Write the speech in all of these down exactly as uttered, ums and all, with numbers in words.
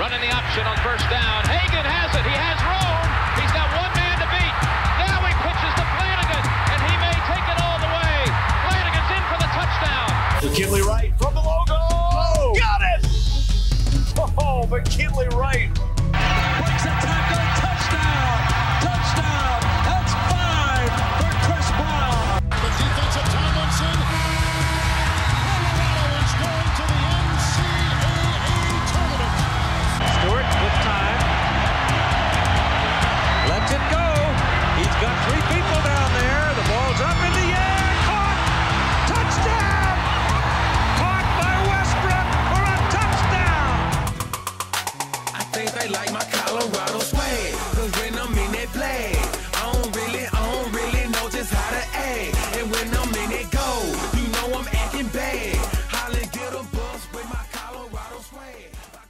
Running the option on first down. Hagan has it. He has room. He's got one man to beat. Now he pitches to Flanagan, and he may take it all the way. Flanagan's in for the touchdown. McKinley Wright from the logo. Oh, got it! Oh, McKinley Wright. Breaks a tackle. Touchdown. Touchdown. That's five for Chris Brown. The defensive Tomlinson. Colorado is going to the N C double A tournament. Stewart with time. Lets it go. He's got three people down there. The ball's up in the air. Caught. Touchdown. Caught by Westbrook for a touchdown. I think they like my Colorado swag. Cause when I'm in that play, I don't really, I don't really know just how to act. And when I'm in it go, you know I'm acting bad. Holland get a bus with my Colorado swag.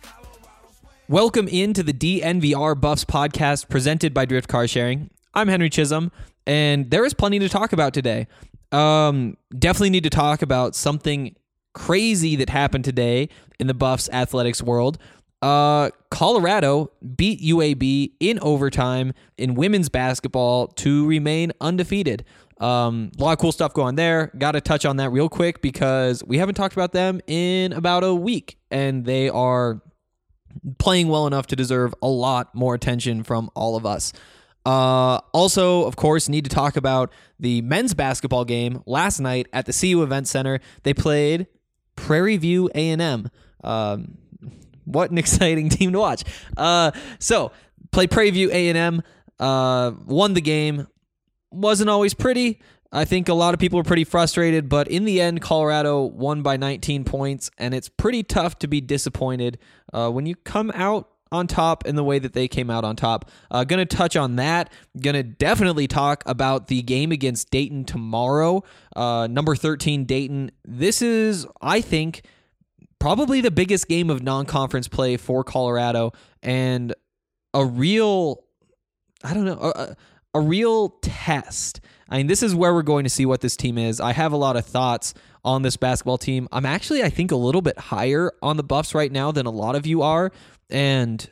Welcome into the D N V R Buffs podcast presented by Drift Car Sharing. I'm Henry Chisholm, and there is plenty to talk about today. Um, definitely need to talk about something crazy that happened today in the Buffs athletics world. Uh, Colorado beat U A B in overtime in women's basketball to remain undefeated. Um, a lot of cool stuff going there. Got to touch on that real quick because we haven't talked about them in about a week, and they are playing well enough to deserve a lot more attention from all of us. Uh, also, of course, need to talk about the men's basketball game last night at the C U Event Center. They played Prairie View A and M. Um, what an exciting team to watch. Uh, so, played Prairie View A and M, uh, won the game. Wasn't always pretty. I think a lot of people were pretty frustrated, but in the end, Colorado won by nineteen points, and it's pretty tough to be disappointed uh, when you come out on top in the way that they came out on top. Uh, gonna touch on that. Gonna definitely talk about the game against Dayton tomorrow. Uh, number thirteen Dayton. This is, I think, probably the biggest game of non-conference play for Colorado, and a real, I don't know, a, a real test. I mean, this is where we're going to see what this team is. I have a lot of thoughts on this basketball team. I'm actually, I think, a little bit higher on the Buffs right now than a lot of you are, and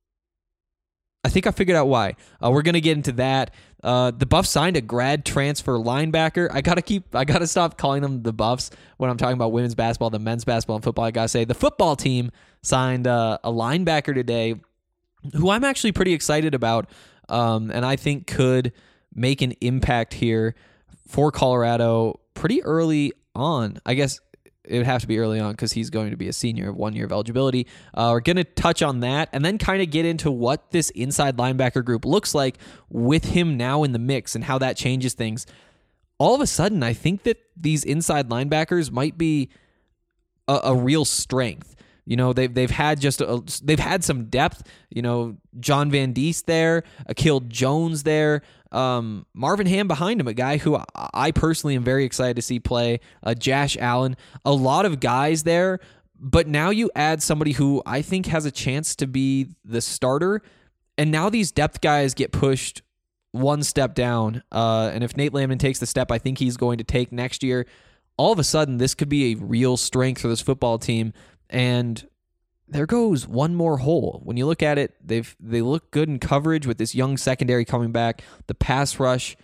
I think I figured out why. Uh, we're going to get into that. Uh, the Buffs signed a grad transfer linebacker. I gotta keep. I gotta stop calling them the Buffs when I'm talking about women's basketball, the men's basketball, and football. I gotta say the football team signed uh, a linebacker today, who I'm actually pretty excited about, um, and I think could make an impact here for Colorado pretty early on. I guess it would have to be early on because he's going to be a senior, one year of eligibility. Uh, we're going to touch on that and then kind of get into what this inside linebacker group looks like with him now in the mix and how that changes things. All of a sudden, I think that these inside linebackers might be a, a real strength. You know, they've they've had just a, they've had some depth. You know, John Van Diest there, Akil Jones there, um, Marvin Ham behind him, a guy who I, I personally am very excited to see play. Uh, Josh Allen, a lot of guys there, but now you add somebody who I think has a chance to be the starter, and now these depth guys get pushed one step down. Uh, and if Nate Landman takes the step I think he's going to take next year, all of a sudden this could be a real strength for this football team. And there goes one more hole. When you look at it, they've they look good in coverage with this young secondary coming back. The pass rush,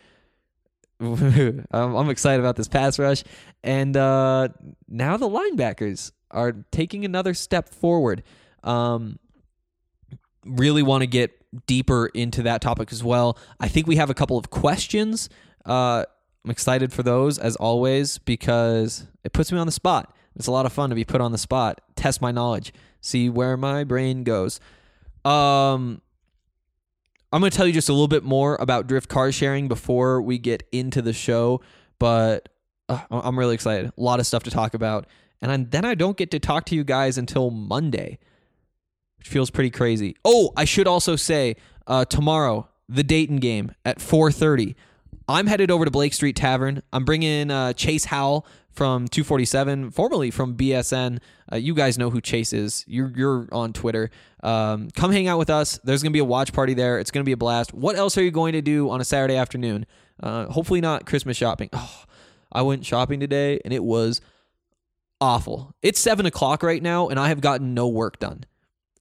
I'm, I'm excited about this pass rush. And uh, now the linebackers are taking another step forward. Um, really want to get deeper into that topic as well. I think we have a couple of questions. Uh, I'm excited for those, as always, because it puts me on the spot. It's a lot of fun to be put on the spot, test my knowledge, see where my brain goes. Um, I'm going to tell you just a little bit more about Drift Car Sharing before we get into the show, but uh, I'm really excited. A lot of stuff to talk about. And I'm, then I don't get to talk to you guys until Monday, which feels pretty crazy. Oh, I should also say, uh, tomorrow, the Dayton game at four thirty. I'm headed over to Blake Street Tavern. I'm bringing uh, Chase Howell from two forty-seven, formerly from B S N. Uh, you guys know who Chase is. You're, you're on Twitter. Um, come hang out with us. There's going to be a watch party there. It's going to be a blast. What else are you going to do on a Saturday afternoon? Uh, hopefully not Christmas shopping. Oh, I went shopping today, and it was awful. It's seven o'clock right now, and I have gotten no work done.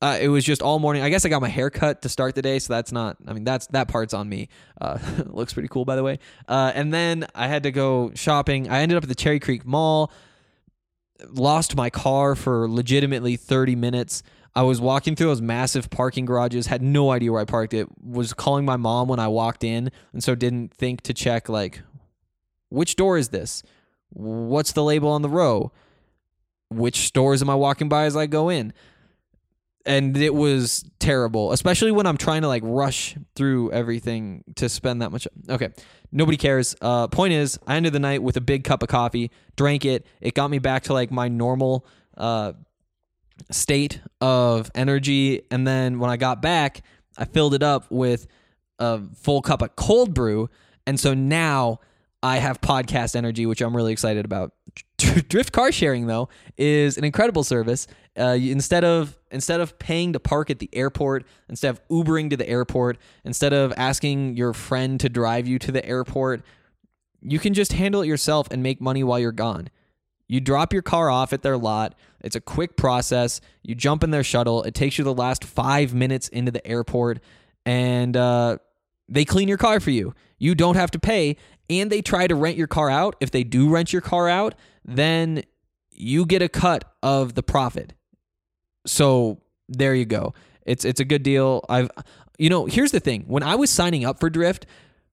Uh, it was just all morning. I guess I got my hair cut to start the day, so that's not, I mean, that's that part's on me. Uh, looks pretty cool, by the way. Uh, and then I had to go shopping. I ended up at the Cherry Creek Mall, lost my car for legitimately thirty minutes. I was walking through those massive parking garages, had no idea where I parked it, was calling my mom when I walked in, and so didn't think to check, like, which door is this? What's the label on the row? Which stores am I walking by as I go in? And it was terrible, especially when I'm trying to like rush through everything to spend that much. Okay, nobody cares. Uh, point is, I ended the night with a big cup of coffee, drank it. It got me back to like my normal uh, state of energy. And then when I got back, I filled it up with a full cup of cold brew. And so now I have podcast energy, which I'm really excited about. Drift car sharing, though, is an incredible service. Uh, instead of instead of paying to park at the airport, instead of Ubering to the airport, instead of asking your friend to drive you to the airport, you can just handle it yourself and make money while you're gone. You drop your car off at their lot. It's a quick process. You jump in their shuttle. It takes you the last five minutes into the airport, and uh, they clean your car for you. You don't have to pay, and they try to rent your car out. If they do rent your car out, then you get a cut of the profit. So there you go. It's it's a good deal. I've, you know, here's the thing. When I was signing up for Drift,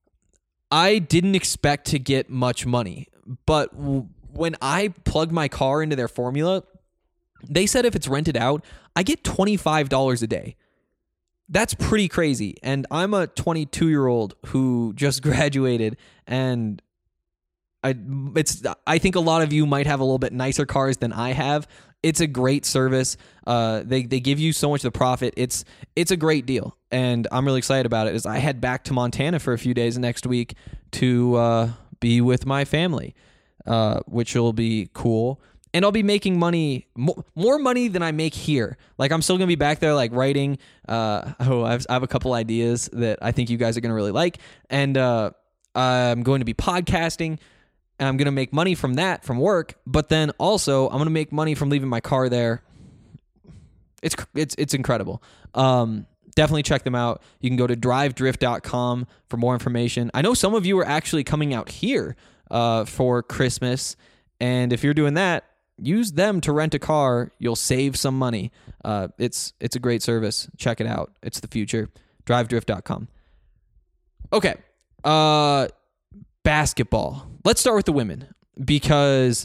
I didn't expect to get much money. But w- when I plugged my car into their formula, they said if it's rented out, I get twenty-five dollars a day. That's pretty crazy. And I'm a twenty-two-year-old who just graduated, and I it's I think a lot of you might have a little bit nicer cars than I have. It's a great service. Uh, they they give you so much of the profit. It's it's a great deal, and I'm really excited about it. As I head back to Montana for a few days next week to uh, be with my family, uh, which will be cool. And I'll be making money, mo- more money than I make here. Like, I'm still going to be back there, like, writing. Uh, oh, I have, I have a couple ideas that I think you guys are going to really like. And uh, I'm going to be podcasting. And I'm going to make money from that, from work. But then also, I'm going to make money from leaving my car there. It's it's it's incredible. Um, definitely check them out. You can go to drive drift dot com for more information. I know some of you are actually coming out here uh, for Christmas. And if you're doing that, use them to rent a car. You'll save some money. Uh, it's it's a great service. Check it out. It's the future. drive drift dot com. Okay. Uh, basketball. Let's start with the women, because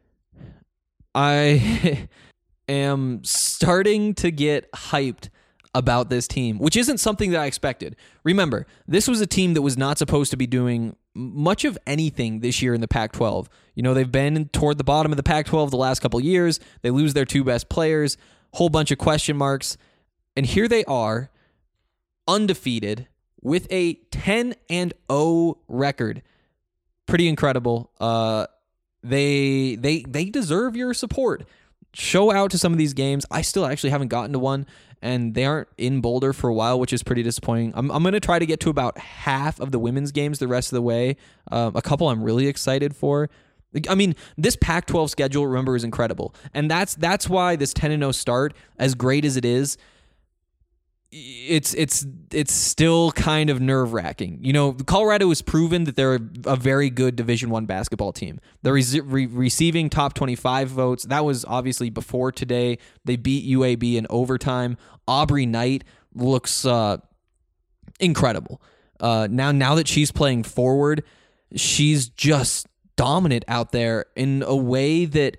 I am starting to get hyped about this team, which isn't something that I expected. Remember, this was a team that was not supposed to be doing much of anything this year in the Pac twelve. You know, they've been toward the bottom of the Pac twelve the last couple of years. They lose their two best players, whole bunch of question marks. And here they are, undefeated, with a ten and oh record. Pretty incredible. Uh, they they they deserve your support. Show out to some of these games. I still actually haven't gotten to one, and they aren't in Boulder for a while, which is pretty disappointing. I'm I'm going to try to get to about half of the women's games the rest of the way. Um, a couple I'm really excited for. I mean, this Pac twelve schedule, remember, is incredible. And that's that's why this ten and oh start, as great as it is, it's it's it's still kind of nerve-wracking. You know, Colorado has proven that they're a very good Division One basketball team. They're re- re- receiving top twenty-five votes. That was obviously before today. They beat U A B in overtime. Aubrey Knight looks uh, incredible. Uh, now, now that she's playing forward, she's just dominant out there in a way that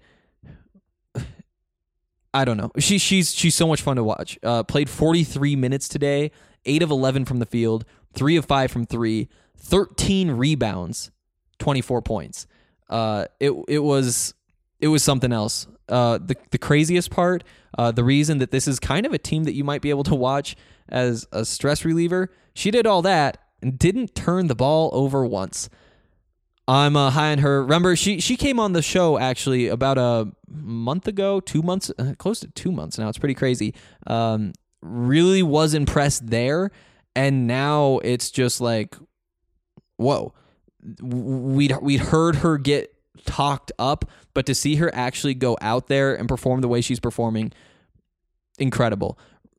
I don't know. She she's she's so much fun to watch. Uh, played forty-three minutes today, eight of eleven from the field, three of five from three, thirteen rebounds, twenty-four points. Uh, it it was it was something else. Uh, the the craziest part, uh, the reason that this is kind of a team that you might be able to watch as a stress reliever, she did all that and didn't turn the ball over once. I'm uh, high on her. Remember, she she came on the show actually about a month ago, two months, uh, close to two months now. It's pretty crazy. Um, really was impressed there, and now it's just like, whoa. We'd we'd heard her get talked up, but to see her actually go out there and perform the way she's performing, incredible.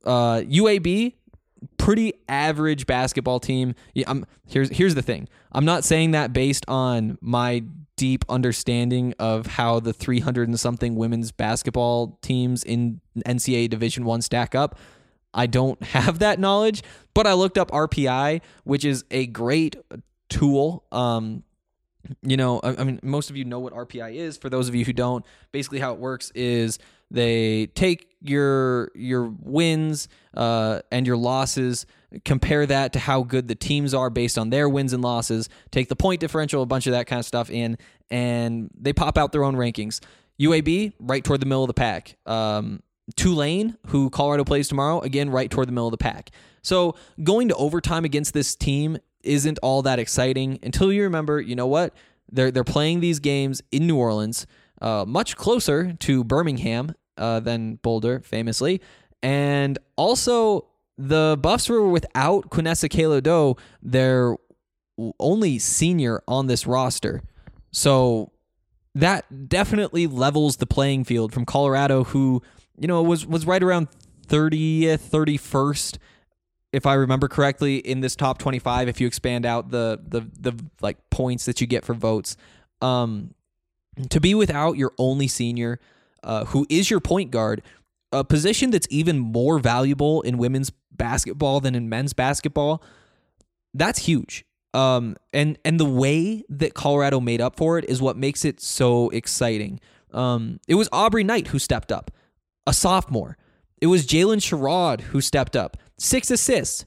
Uh, U A B, pretty average basketball team. Yeah, I'm, here's here's the thing. I'm not saying that based on my deep understanding of how the three hundred and something women's basketball teams in N C double A Division One stack up. I don't have that knowledge, but I looked up R P I, which is a great tool. Um, you know, I, I mean, most of you know what R P I is. For those of you who don't, basically how it works is they take your your wins uh, and your losses, compare that to how good the teams are based on their wins and losses, take the point differential, a bunch of that kind of stuff in, and they pop out their own rankings. U A B, right toward the middle of the pack. Um, Tulane, who Colorado plays tomorrow, again, right toward the middle of the pack. So going to overtime against this team isn't all that exciting until you remember, you know what? They're, they're playing these games in New Orleans, uh, much closer to Birmingham uh, than Boulder, famously. And also, the Buffs were without Quinessa Kalo-Do, their only senior on this roster. So that definitely levels the playing field from Colorado, who, you know, was was right around thirtieth, thirty-first, if I remember correctly, in this top twenty-five. If you expand out the the the like points that you get for votes, um, to be without your only senior, uh, who is your point guard, a position that's even more valuable in women's basketball than in men's basketball, that's huge. Um, and and the way that Colorado made up for it is what makes it so exciting. Um, it was Aubrey Knight who stepped up, a sophomore. It was Jalen Sherrod who stepped up, six assists.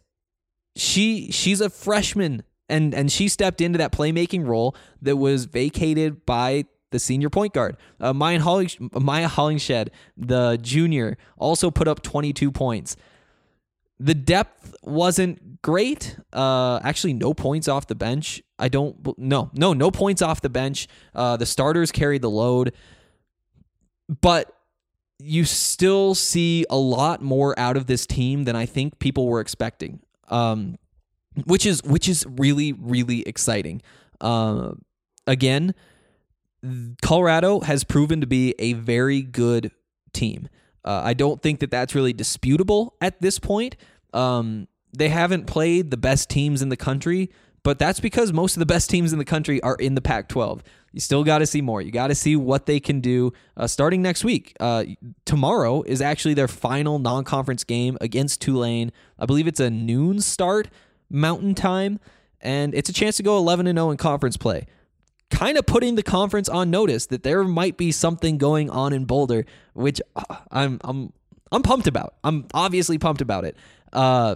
She she's a freshman, and and she stepped into that playmaking role that was vacated by the senior point guard. Uh, Maya, Holling, Maya Hollingshed, the junior, also put up twenty-two points. The depth wasn't great. Uh, actually, no points off the bench. I don't, no, no, no points off the bench. Uh, the starters carried the load. But you still see a lot more out of this team than I think people were expecting, um, which is which is really, really exciting. Uh, again, Colorado has proven to be a very good team. Uh, I don't think that that's really disputable at this point. Um, they haven't played the best teams in the country, but that's because most of the best teams in the country are in the Pac twelve. You still got to see more. You got to see what they can do uh, starting next week. Uh, tomorrow is actually their final non-conference game against Tulane. I believe it's a noon start Mountain Time, and it's a chance to go eleven and oh in conference play. Kind of putting the conference on notice that there might be something going on in Boulder, which I'm I'm I'm pumped about. I'm obviously pumped about it. Uh,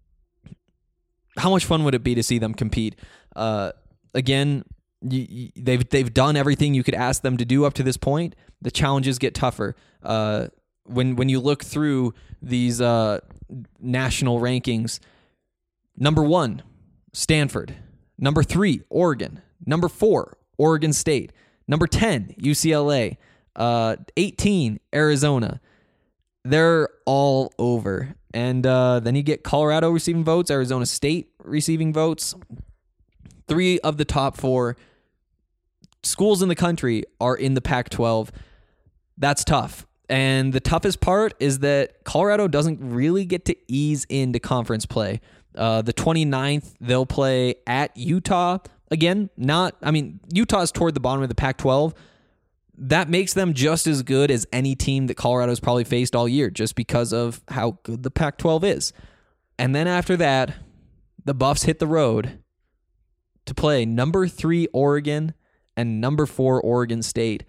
how much fun would it be to see them compete? Uh, again, you, you, they've they've done everything you could ask them to do up to this point. The challenges get tougher. Uh, when when you look through these uh, national rankings, number one, Stanford. Number three, Oregon. Number four, Oregon State. Number ten, U C L A. Uh, eighteen, Arizona. They're all over. And uh, then you get Colorado receiving votes, Arizona State receiving votes. Three of the top four schools in the country are in the Pac twelve. That's tough. And the toughest part is that Colorado doesn't really get to ease into conference play. Uh, the twenty-ninth, they'll play at Utah. Again, not, I mean, Utah's toward the bottom of the Pac twelve. That makes them just as good as any team that Colorado's probably faced all year, just because of how good the Pac twelve is. And then after that, the Buffs hit the road to play number three Oregon and number four Oregon State.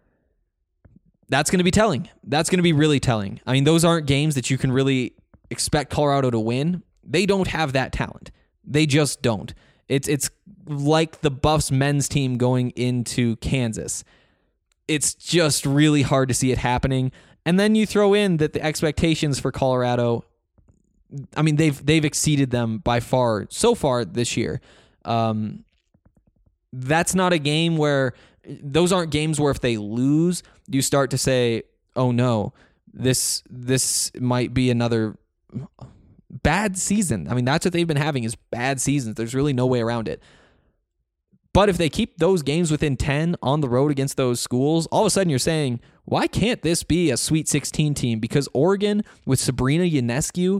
That's going to be telling. That's going to be really telling. I mean, those aren't games that you can really expect Colorado to win. They don't have that talent. They just don't. It's it's like the Buffs men's team going into Kansas. It's just really hard to see it happening. And then you throw in that the expectations for Colorado, I mean, they've they've exceeded them by far so far this year. Um, that's not a game where, those aren't games where if they lose, you start to say, oh no, this this might be another bad season. I mean, that's what they've been having, is bad seasons. There's really no way around it. But if they keep those games within ten on the road against those schools, all of a sudden you're saying, why can't this be a Sweet sixteen team? Because Oregon with Sabrina Ionescu,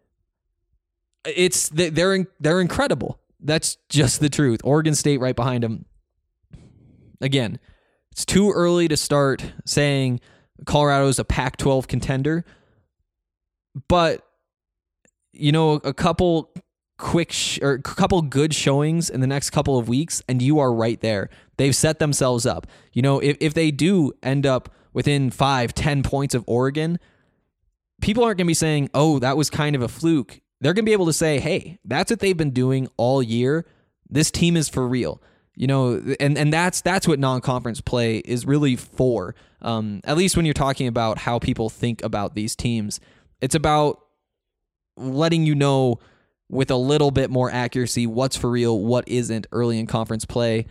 it's they're they're incredible. That's just the truth. Oregon State right behind them. Again, it's too early to start saying Colorado's a Pac twelve contender, but you know, a couple quick sh- or a couple good showings in the next couple of weeks, and you are right there. They've set themselves up. You know, if if they do end up within five, ten points of Oregon, people aren't going to be saying, "Oh, that was kind of a fluke." They're going to be able to say, "Hey, that's what they've been doing all year. This team is for real." You know, and, and that's that's what non-conference play is really for. Um, at least when you're talking about how people think about these teams, it's about letting you know with a little bit more accuracy what's for real, what isn't early in conference play.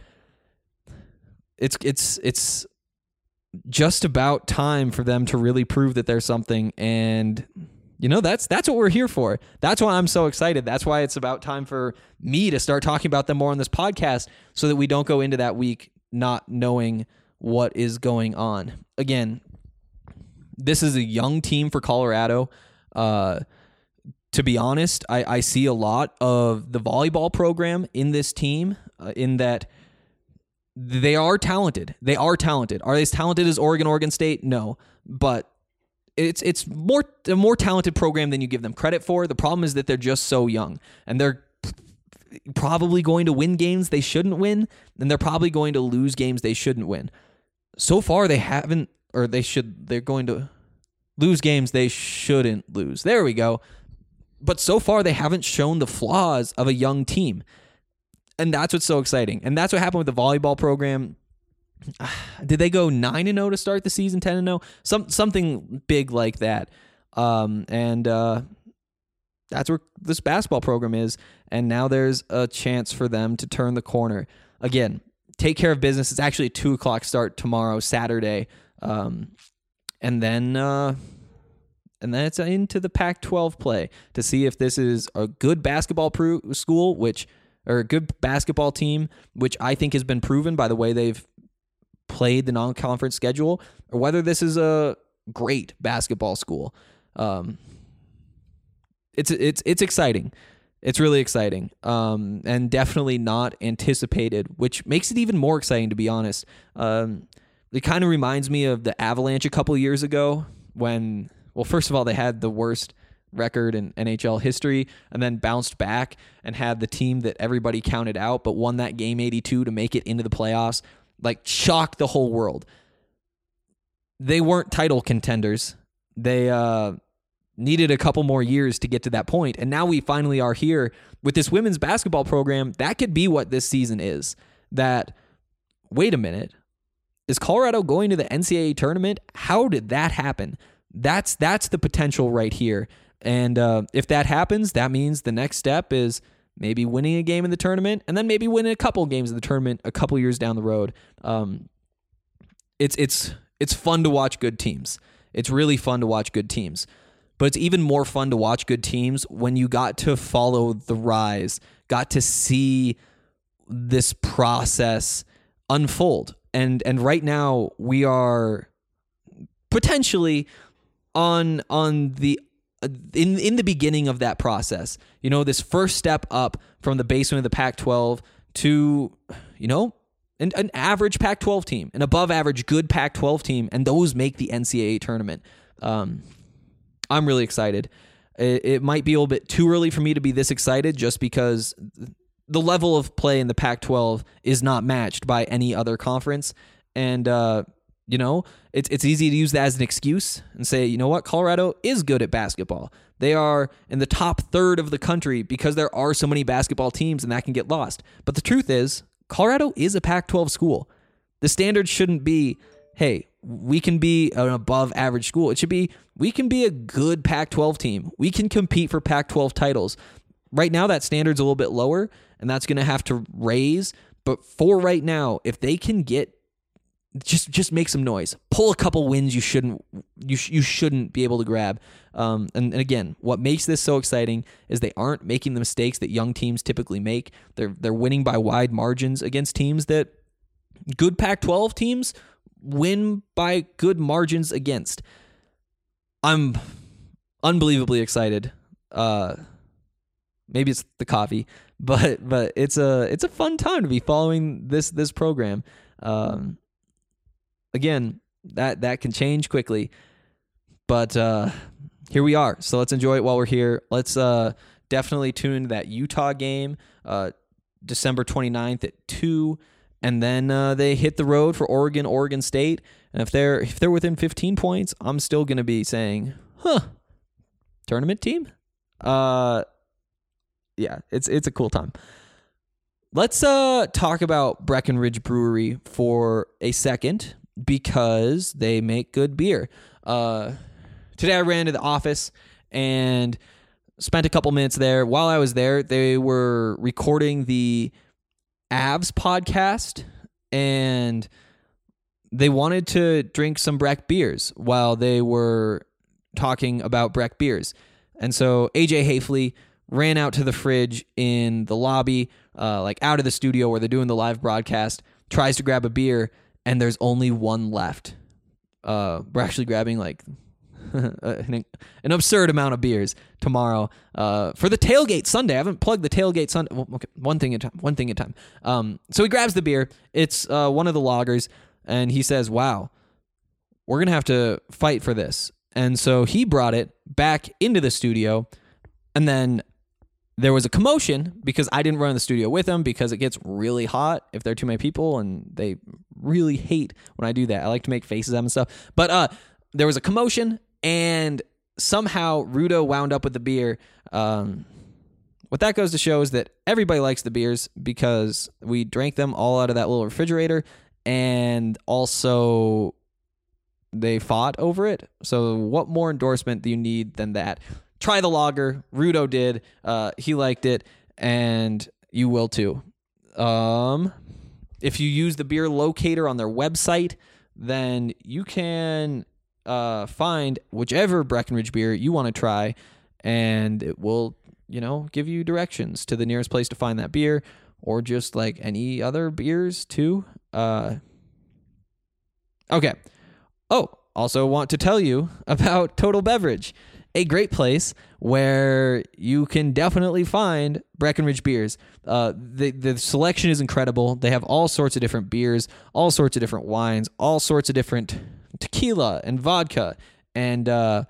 It's it's it's just about time for them to really prove that there's something, and you know, that's that's what we're here for. That's why I'm so excited. That's why it's about time for me to start talking about them more on this podcast so that we don't go into that week not knowing what is going on. Again, this is a young team for Colorado. Uh, to be honest, I, I see a lot of the volleyball program in this team uh, in that they are talented. They are talented. Are they as talented as Oregon, Oregon State? No, but It's it's more a more talented program than you give them credit for. The problem is that they're just so young, and they're probably going to win games they shouldn't win, and they're probably going to lose games they shouldn't win. So far, they haven't, or they should. They're going to lose games they shouldn't lose. There we go. But so far, they haven't shown the flaws of a young team, and that's what's so exciting. And that's what happened with the volleyball program. Did they go nine and zero to start the season? Ten and zero, some something big like that. Um, and uh, that's where this basketball program is. And now there's a chance for them to turn the corner again. Take care of business. It's actually a two o'clock start tomorrow, Saturday, um, and then uh, and then it's into the Pac twelve play to see if this is a good basketball pro- school, which or a good basketball team, which I think has been proven by the way they've played the non-conference schedule, or whether this is a great basketball school. Um, it's it's it's exciting. It's really exciting, um, and definitely not anticipated, which makes it even more exciting, to be honest. Um, it kind of reminds me of the Avalanche a couple years ago when, well, first of all, they had the worst record in N H L history and then bounced back and had the team that everybody counted out but won that game eighty-two to make it into the playoffs. Like, shocked the whole world. They weren't title contenders. They uh, needed a couple more years to get to that point. And now we finally are here with this women's basketball program. That could be what this season is. That, wait a minute, is Colorado going to the N C double A tournament? How did that happen? That's that's the potential right here. And uh, if that happens, that means the next step is maybe winning a game in the tournament, and then maybe winning a couple games in the tournament a couple years down the road. Um, it's it's it's fun to watch good teams. It's really fun to watch good teams. But it's even more fun to watch good teams when you got to follow the rise, got to see this process unfold. And and right now we are potentially on on the in in the beginning of that process. You know, this first step up from the basement of the Pac twelve to, you know, an, an average Pac twelve team, an above average good Pac twelve team, and those make the N C double A tournament. Um, I'm really excited. It, it might be a little bit too early for me to be this excited just because the level of play in the Pac twelve is not matched by any other conference. And, uh, you know, it's it's easy to use that as an excuse and say, you know what, Colorado is good at basketball. They are in the top third of the country because there are so many basketball teams and that can get lost. But the truth is, Colorado is a Pac twelve school. The standard shouldn't be, hey, we can be an above average school. It should be, we can be a good Pac twelve team. We can compete for Pac twelve titles. Right now, that standard's a little bit lower, and that's going to have to raise. But for right now, if they can get just just make some noise. Pull a couple wins you shouldn't you sh- you shouldn't be able to grab. Um, and, and again, what makes this so exciting is they aren't making the mistakes that young teams typically make. They're they're winning by wide margins against teams that good Pac twelve teams win by good margins against. I'm unbelievably excited. Uh, maybe it's the coffee, but but it's a it's a fun time to be following this this program. Um, again, that that can change quickly, but uh, here we are. So let's enjoy it while we're here. Let's uh, definitely tune into that Utah game, uh, December twenty-ninth at two, and then uh, they hit the road for Oregon, Oregon State. And if they're if they're within fifteen points, I'm still going to be saying, "Huh, tournament team." Uh, yeah, it's it's a cool time. Let's uh talk about Breckenridge Brewery for a second because they make good beer. Uh, today I ran to the office and spent a couple minutes there. While I was there, they were recording the Avs podcast, and they wanted to drink some Breck beers while they were talking about Breck beers. And so A J Hafley ran out to the fridge in the lobby, uh, like out of the studio where they're doing the live broadcast, tries to grab a beer, and there's only one left. Uh, we're actually grabbing like an, an absurd amount of beers tomorrow uh, for the tailgate Sunday. I haven't plugged the tailgate Sunday. Well, okay, one thing at a time. One thing at a time. Um, so he grabs the beer. It's uh, one of the lagers, and he says, "Wow, we're gonna have to fight for this." And so he brought it back into the studio, and then there was a commotion because I didn't run in the studio with him because it gets really hot if there are too many people, and they really hate when I do that. I like to make faces at them and stuff. But uh, there was a commotion, and somehow Rudo wound up with the beer. Um, what that goes to show is that everybody likes the beers because we drank them all out of that little refrigerator, and also they fought over it. So what more endorsement do you need than that? Try the lager. Rudo did. Uh, he liked it, and you will too. Um, if you use the beer locator on their website, then you can uh, find whichever Breckenridge beer you want to try, and it will, you know, give you directions to the nearest place to find that beer, or just like any other beers too. Uh, okay. Oh, also want to tell you about Total Beverage, a great place where you can definitely find Breckenridge beers. Uh, the, the selection is incredible. They have all sorts of different beers, all sorts of different wines, all sorts of different tequila and vodka. And, uh,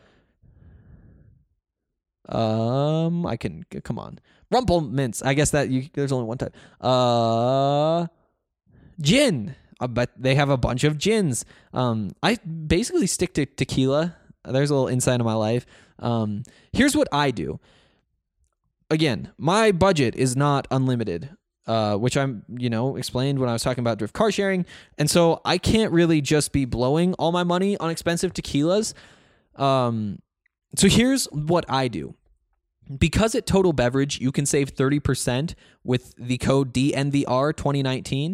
um, I can, come on. Rumple Mints. I guess that you, there's only one type. Uh, gin. Uh, but they have a bunch of gins. Um, I basically stick to tequila. There's a little insight of my life. Um, here's what I do. Again, my budget is not unlimited, uh, which I'm, you know, explained when I was talking about Drift car sharing. And so I can't really just be blowing all my money on expensive tequilas. Um, so here's what I do. Because at Total Beverage, you can save thirty percent with the code D N V R twenty nineteen.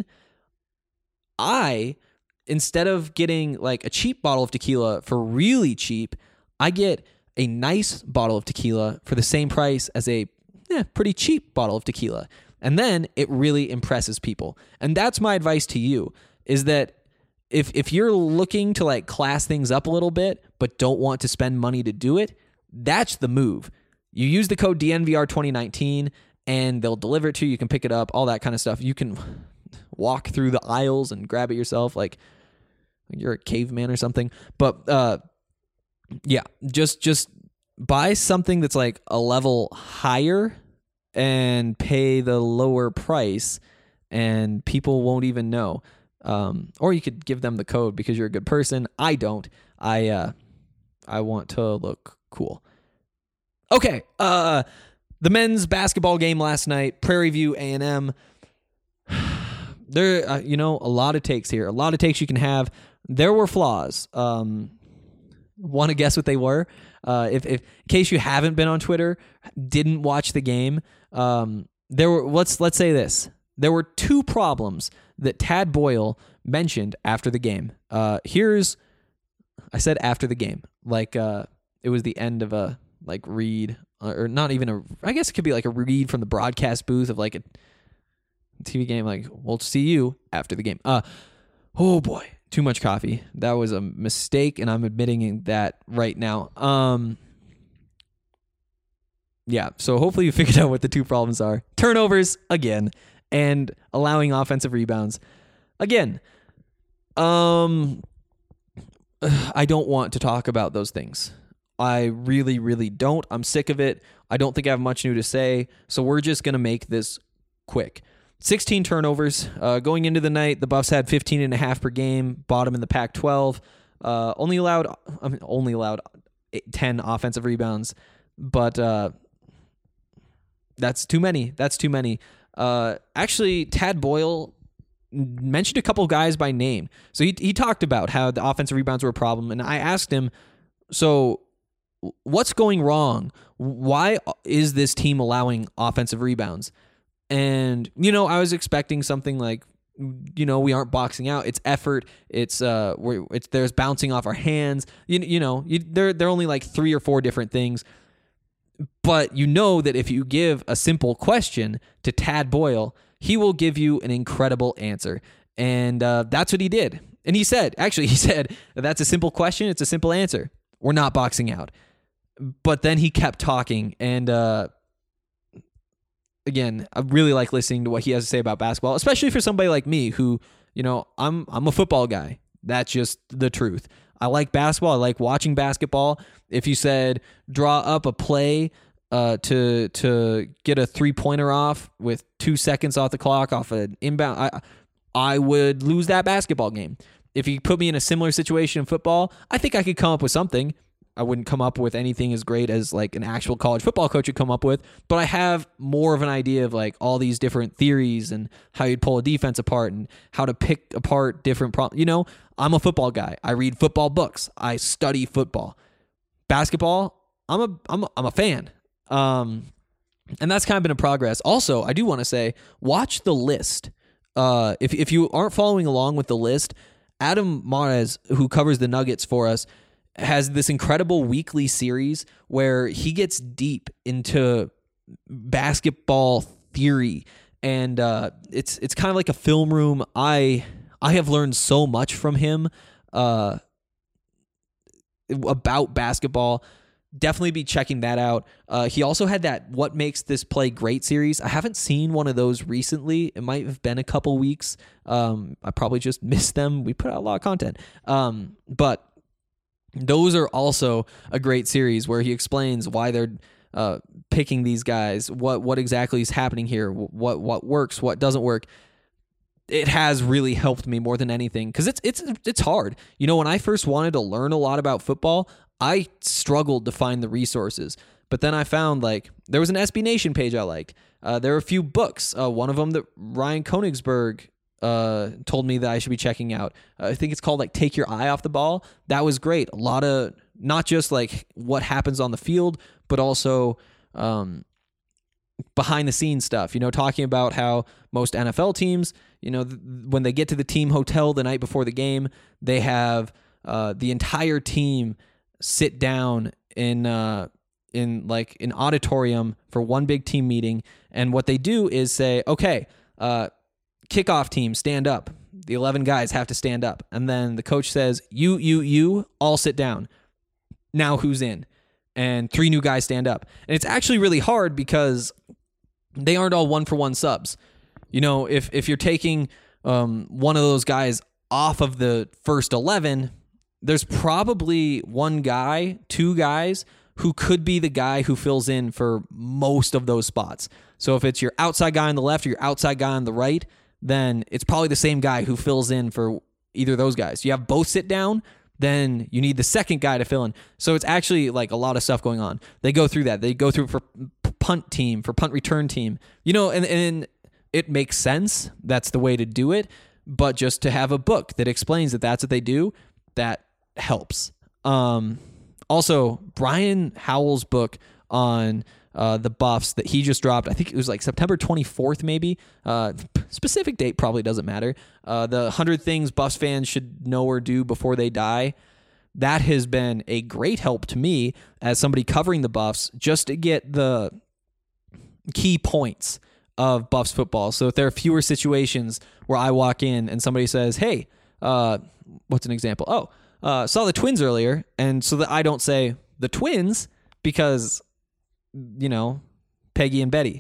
I, instead of getting like a cheap bottle of tequila for really cheap, I get a nice bottle of tequila for the same price as a eh, pretty cheap bottle of tequila. And then it really impresses people. And that's my advice to you, is that if if you're looking to like class things up a little bit, but don't want to spend money to do it, that's the move. You use the code D N V R twenty nineteen and they'll deliver it to you. You can pick it up, all that kind of stuff. You can walk through the aisles and grab it yourself like you're a caveman or something. But uh, yeah, just just buy something that's like a level higher and pay the lower price, and people won't even know. Um, or you could give them the code because you're a good person. I don't. I uh, I want to look cool. Okay, uh, the men's basketball game last night, Prairie View A and M. There, uh, you know, a lot of takes here. A lot of takes you can have. There were flaws. Um, want to guess what they were? Uh, if, if, in case you haven't been on Twitter, didn't watch the game, um, there were. Let's let's say this: there were two problems that Tad Boyle mentioned after the game. Uh, here's, I said after the game, like uh, it was the end of a like read, or not even a, I guess it could be like a read from the broadcast booth of like a T V game. Like, we'll see you after the game. Uh, oh boy, too much coffee. That was a mistake, and I'm admitting that right now. Um, yeah, so hopefully you figured out what the two problems are. Turnovers, again, and allowing offensive rebounds. Again, um, I don't want to talk about those things. I really, really don't. I'm sick of it. I don't think I have much new to say, so we're just going to make this quick. sixteen turnovers. Uh, going into the night, the Buffs had fifteen and a half per game, bottom in the Pac twelve. Uh, only allowed, I mean, only allowed ten offensive rebounds, but uh, that's too many. That's too many. Uh, actually, Tad Boyle mentioned a couple guys by name. So he he talked about how the offensive rebounds were a problem, and I asked him, so what's going wrong? Why is this team allowing offensive rebounds? And, you know, I was expecting something like, you know, we aren't boxing out. It's effort. It's uh, we're, it's there's bouncing off our hands. You you know, you, they're they're only like three or four different things. But you know that if you give a simple question to Tad Boyle, he will give you an incredible answer. And uh, that's what he did. And he said, actually, he said, that's a simple question. It's a simple answer. We're not boxing out. But then he kept talking. And uh, again, I really like listening to what he has to say about basketball, especially for somebody like me who, you know, I'm I'm a football guy. That's just the truth. I like basketball. I like watching basketball. If you said draw up a play uh, to to get a three-pointer off with two seconds off the clock off an inbound, I I would lose that basketball game. If you put me in a similar situation in football, I think I could come up with something. I wouldn't come up with anything as great as like an actual college football coach would come up with, but I have more of an idea of like all these different theories and how you'd pull a defense apart and how to pick apart different problems. You know, I'm a football guy. I read football books. I study football. Basketball, I'm a I'm a, I'm a fan. Um, and that's kind of been a progress. Also, I do want to say, watch the list. Uh, if if you aren't following along with the list, Adam Mares, who covers the Nuggets for us, has this incredible weekly series where he gets deep into basketball theory, and uh, it's it's kind of like a film room. I I have learned so much from him uh, about basketball. Definitely be checking that out. Uh, he also had that What Makes This Play Great series. I haven't seen one of those recently. It might have been a couple weeks. Um, I probably just missed them. We put out a lot of content. Um, but those are also a great series where he explains why they're uh, picking these guys, what what exactly is happening here, what what works, what doesn't work. It has really helped me more than anything because it's it's it's hard. You know, when I first wanted to learn a lot about football, I struggled to find the resources. But then I found like there was an S B Nation page I liked. Uh, there were a few books. Uh, one of them that Ryan Koenigsberg uh told me that I should be checking out. Uh, I think it's called like Take Your Eye Off the Ball. That was great. A lot of not just like what happens on the field, but also um behind the scenes stuff, you know, talking about how most N F L teams, you know, th- when they get to the team hotel the night before the game, they have uh the entire team sit down in uh in like an auditorium for one big team meeting, and what they do is say, okay, uh kickoff team, stand up. The eleven guys have to stand up. And then the coach says, you, you, you, all sit down. Now who's in? And three new guys stand up. And it's actually really hard because they aren't all one-for-one subs. You know, if if you're taking um, one of those guys off of the first eleven, there's probably one guy, two guys, who could be the guy who fills in for most of those spots. So if it's your outside guy on the left or your outside guy on the right, then it's probably the same guy who fills in for either of those guys. You have both sit down, then you need the second guy to fill in. So it's actually like a lot of stuff going on. They go through that. They go through for punt team, for punt return team, you know, and, and it makes sense. That's the way to do it. But just to have a book that explains that that's what they do, that helps. Um, also, Brian Howell's book on uh, the Buffs that he just dropped. I think it was like September twenty-fourth, maybe. Uh, specific date probably doesn't matter. Uh, the one hundred things Buffs fans should know or do before they die. That has been a great help to me as somebody covering the Buffs just to get the key points of Buffs football. So if there are fewer situations where I walk in and somebody says, hey, uh, what's an example? Oh, uh, saw the Twins earlier. And so that I don't say the Twins because, you know, Peggy and Betty.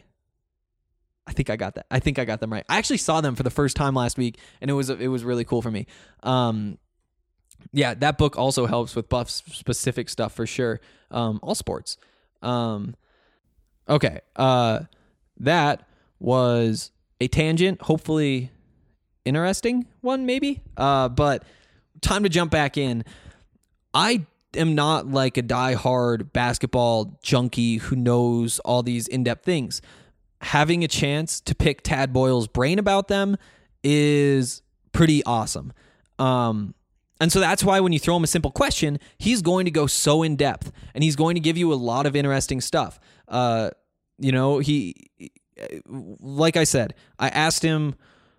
I think I got that. I think I got them right. I actually saw them for the first time last week, and it was it was really cool for me. Um, yeah, that book also helps with Buffs specific stuff for sure. Um, all sports. Um, okay, uh, that was a tangent. Hopefully, interesting one maybe. Uh, but time to jump back in. I am not like a diehard basketball junkie who knows all these in-depth things. Having a chance to pick Tad Boyle's brain about them is pretty awesome. Um, and so that's why when you throw him a simple question, he's going to go so in depth and he's going to give you a lot of interesting stuff. Uh, you know, he, like I said, I asked him,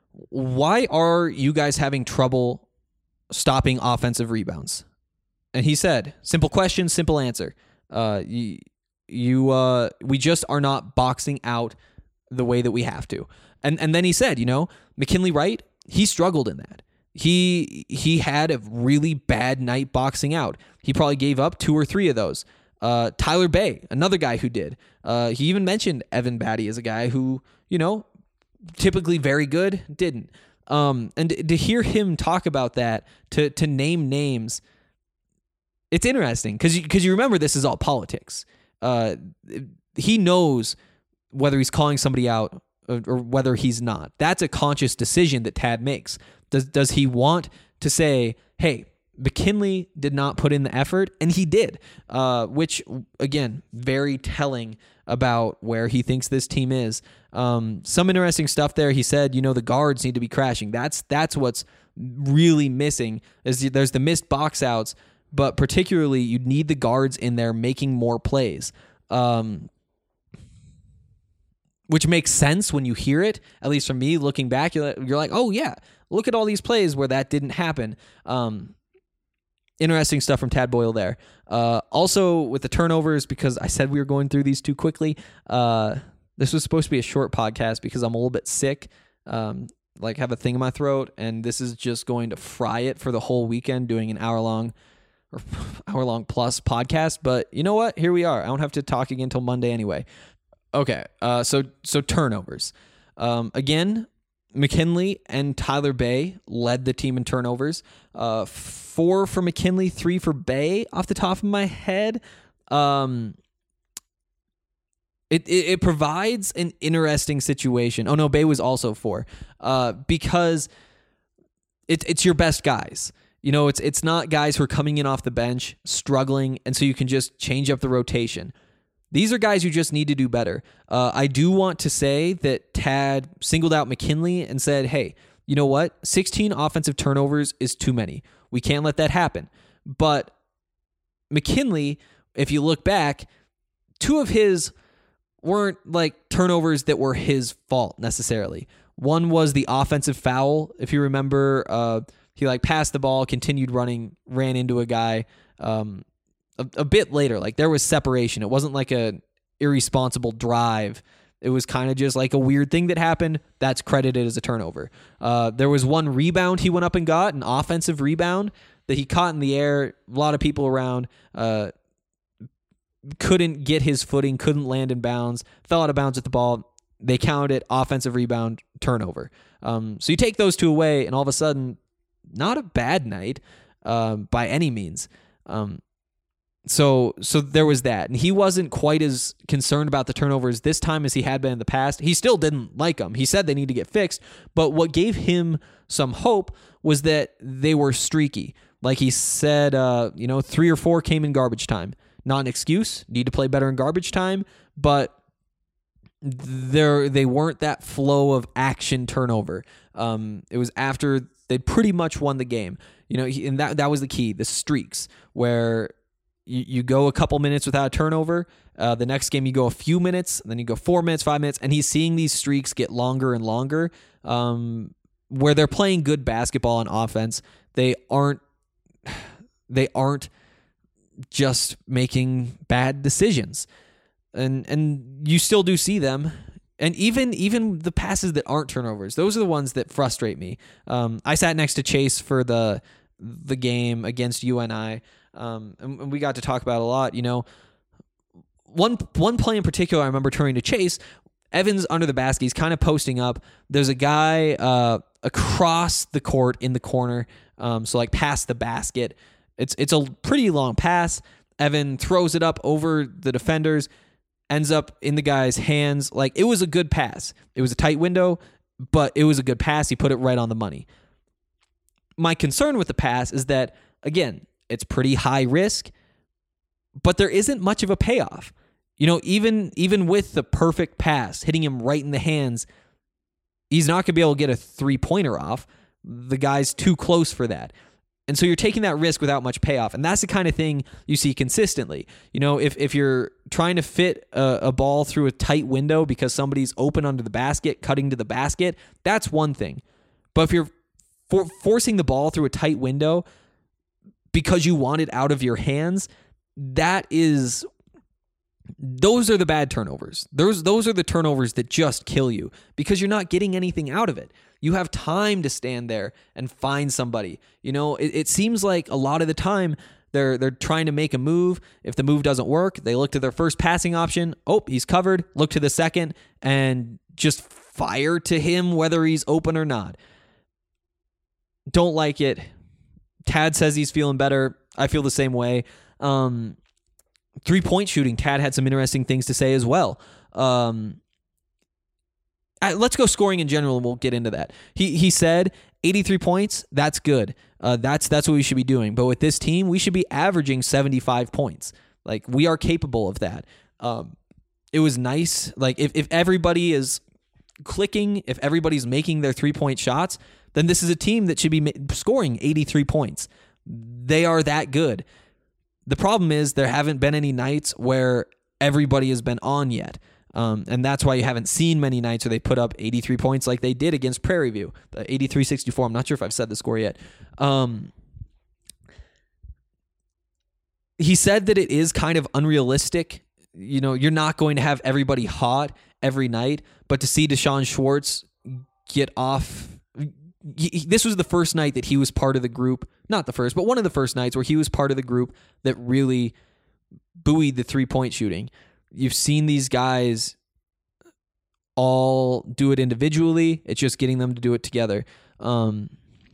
why are you guys having trouble stopping offensive rebounds? And he said, simple question, simple answer. Uh, you, you, uh, we just are not boxing out the way that we have to. And and then he said, you know, McKinley Wright, he struggled in that. He he had a really bad night boxing out. He probably gave up two or three of those. Uh, Tyler Bay, another guy who did. Uh, he even mentioned Evan Batty as a guy who, you know, typically very good, didn't. Um, and to hear him talk about that, to to name names, it's interesting because you, because you remember this is all politics. Uh, he knows whether he's calling somebody out or, or whether he's not. That's a conscious decision that Tad makes. Does does he want to say, hey, McKinley did not put in the effort, and he did, uh, which, again, very telling about where he thinks this team is. Um, some interesting stuff there. He said, you know, the guards need to be crashing. That's that's what's really missing. Is there's the missed box outs, but particularly you need the guards in there making more plays, um, which makes sense when you hear it. At least for me, looking back, you're like, you're like, oh yeah, look at all these plays where that didn't happen. Um, interesting stuff from Tad Boyle there. Uh, also with the turnovers, because I said we were going through these too quickly. Uh, this was supposed to be a short podcast because I'm a little bit sick. Um, like have a thing in my throat, and this is just going to fry it for the whole weekend doing an hour long or hour long plus podcast. But you know what? Here we are. I don't have to talk again until Monday anyway. Okay. Uh, so, so turnovers, um, again, McKinley and Tyler Bay led the team in turnovers, uh, four for McKinley, three for Bay off the top of my head. Um, It, it it provides an interesting situation. Oh no, Bay was also four, uh, because it's it's your best guys. You know, it's it's not guys who are coming in off the bench struggling, and so you can just change up the rotation. These are guys who just need to do better. Uh, I do want to say that Tad singled out McKinley and said, "Hey, you know what? sixteen offensive turnovers is too many. We can't let that happen." But McKinley, if you look back, two of his weren't like turnovers that were his fault necessarily. One was the offensive foul. If you remember, uh, he like passed the ball, continued running, ran into a guy um, a, a bit later. Like there was separation. It wasn't like a irresponsible drive. It was kind of just like a weird thing that happened. That's credited as a turnover. Uh, there was one rebound he went up and got, an offensive rebound that he caught in the air. A lot of people around. Uh, couldn't get his footing, couldn't land in bounds, fell out of bounds at the ball. They counted it, offensive rebound, turnover. Um, so you take those two away, and all of a sudden, not a bad night uh, by any means. Um, so so there was that. And he wasn't quite as concerned about the turnovers this time as he had been in the past. He still didn't like them. He said they need to get fixed. But what gave him some hope was that they were streaky. Like he said, uh, you know, three or four came in garbage time. Not an excuse, need to play better in garbage time, but there they weren't that flow of action turnover. Um, it was after they pretty much won the game, you know, and that that was the key, the streaks, where you, you go a couple minutes without a turnover. Uh, the next game you go a few minutes, then you go four minutes, five minutes, and he's seeing these streaks get longer and longer. Um, where they're playing good basketball and offense, they aren't they aren't just making bad decisions. And and you still do see them. And even even the passes that aren't turnovers, those are the ones that frustrate me. Um, I sat next to Chase for the the game against U N I, um, and, and we got to talk about it a lot. You know, one one play in particular, I remember turning to Chase. Evans under the basket, he's kind of posting up. There's a guy uh, across the court in the corner, um, so like past the basket. It's it's a pretty long pass. Evan throws it up over the defenders, ends up in the guy's hands. Like, it was a good pass. It was a tight window, but it was a good pass. He put it right on the money. My concern with the pass is that, again, it's pretty high risk, but there isn't much of a payoff. You know, even even with the perfect pass, hitting him right in the hands, he's not going to be able to get a three-pointer off. The guy's too close for that. And so you're taking that risk without much payoff. And that's the kind of thing you see consistently. You know, if if you're trying to fit a, a ball through a tight window because somebody's open under the basket, cutting to the basket, that's one thing. But if you're for, forcing the ball through a tight window because you want it out of your hands, that is... Those are the bad turnovers. Those those are the turnovers that just kill you because you're not getting anything out of it. You have time to stand there and find somebody. You know, it, it seems like a lot of the time they're they're trying to make a move. If the move doesn't work, they look to their first passing option. Oh, he's covered. Look to the second and just fire to him whether he's open or not. Don't like it. Tad says he's feeling better. I feel the same way. Um... Three-point shooting, Tad had some interesting things to say as well. Um, uh, let's go scoring in general, and we'll get into that. He he said eighty-three points, that's good. Uh, that's that's what we should be doing. But with this team, we should be averaging seventy-five points. Like, we are capable of that. Um, it was nice. Like, if, if everybody is clicking, if everybody's making their three-point shots, then this is a team that should be ma- scoring eighty-three points. They are that good. The problem is there haven't been any nights where everybody has been on yet. Um, and that's why you haven't seen many nights where they put up eighty-three points like they did against Prairie View. The eighty-three sixty-four. I'm not sure if I've said the score yet. Um, he said that it is kind of unrealistic. You know, you're not going to have everybody hot every night, but to see Deshaun Schwartz get off... He, this was the first night that he was part of the group, not the first, but one of the first nights where he was part of the group that really buoyed the three-point shooting. You've seen these guys all do it individually. It's just getting them to do it together. Um,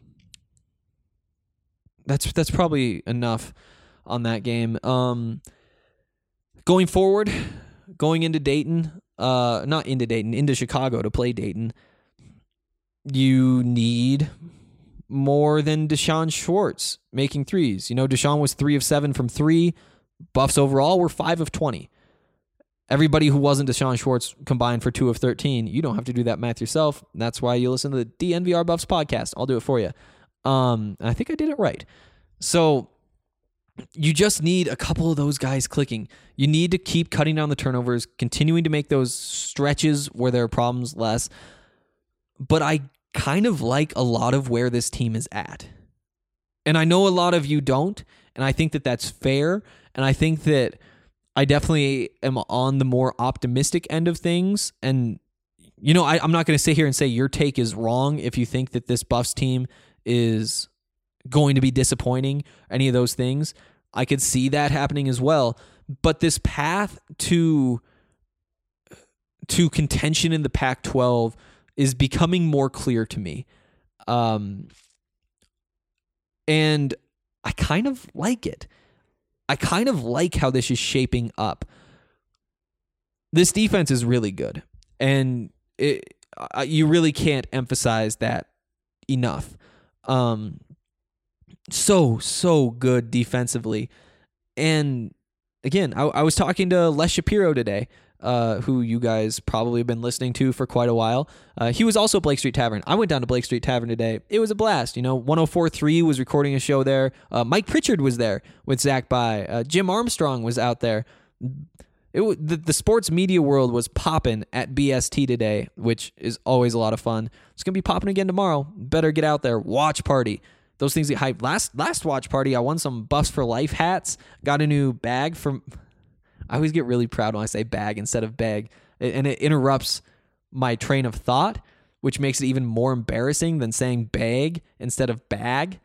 that's that's probably enough on that game. Um, going forward, going into Dayton, uh, not into Dayton, into Chicago to play Dayton, you need more than Deshaun Schwartz making threes. You know, Deshaun was three of seven from three. Buffs overall were five of twenty. Everybody who wasn't Deshaun Schwartz combined for two of thirteen. You don't have to do that math yourself. That's why you listen to the D N V R Buffs podcast. I'll do it for you. Um, I think I did it right. So you just need a couple of those guys clicking. You need to keep cutting down the turnovers, continuing to make those stretches where there are problems less. But I kind of like a lot of where this team is at. And I know a lot of you don't, and I think that that's fair, and I think that I definitely am on the more optimistic end of things. And, you know, I, I'm not going to sit here and say your take is wrong if you think that this Buffs team is going to be disappointing, any of those things. I could see that happening as well. But this path to, to contention in the Pac twelve is becoming more clear to me. Um, and I kind of like it. I kind of like how this is shaping up. This defense is really good. And it, uh, you really can't emphasize that enough. Um, so, so good defensively. And again, I, I was talking to Les Shapiro today. uh, who you guys probably have been listening to for quite a while. Uh, he was also at Blake Street Tavern. I went down to Blake Street Tavern today. It was a blast. You know, one oh four point three was recording a show there. Uh, Mike Pritchard was there with Zach By. Uh, Jim Armstrong was out there. It w- the, the sports media world was popping at B S T today, which is always a lot of fun. It's going to be popping again tomorrow. Better get out there. Watch party. Those things get hyped. Last, last watch party, I won some Buffs for Life hats. Got a new bag from... I always get really proud when I say bag instead of bag, and it interrupts my train of thought, which makes it even more embarrassing than saying bag instead of bag,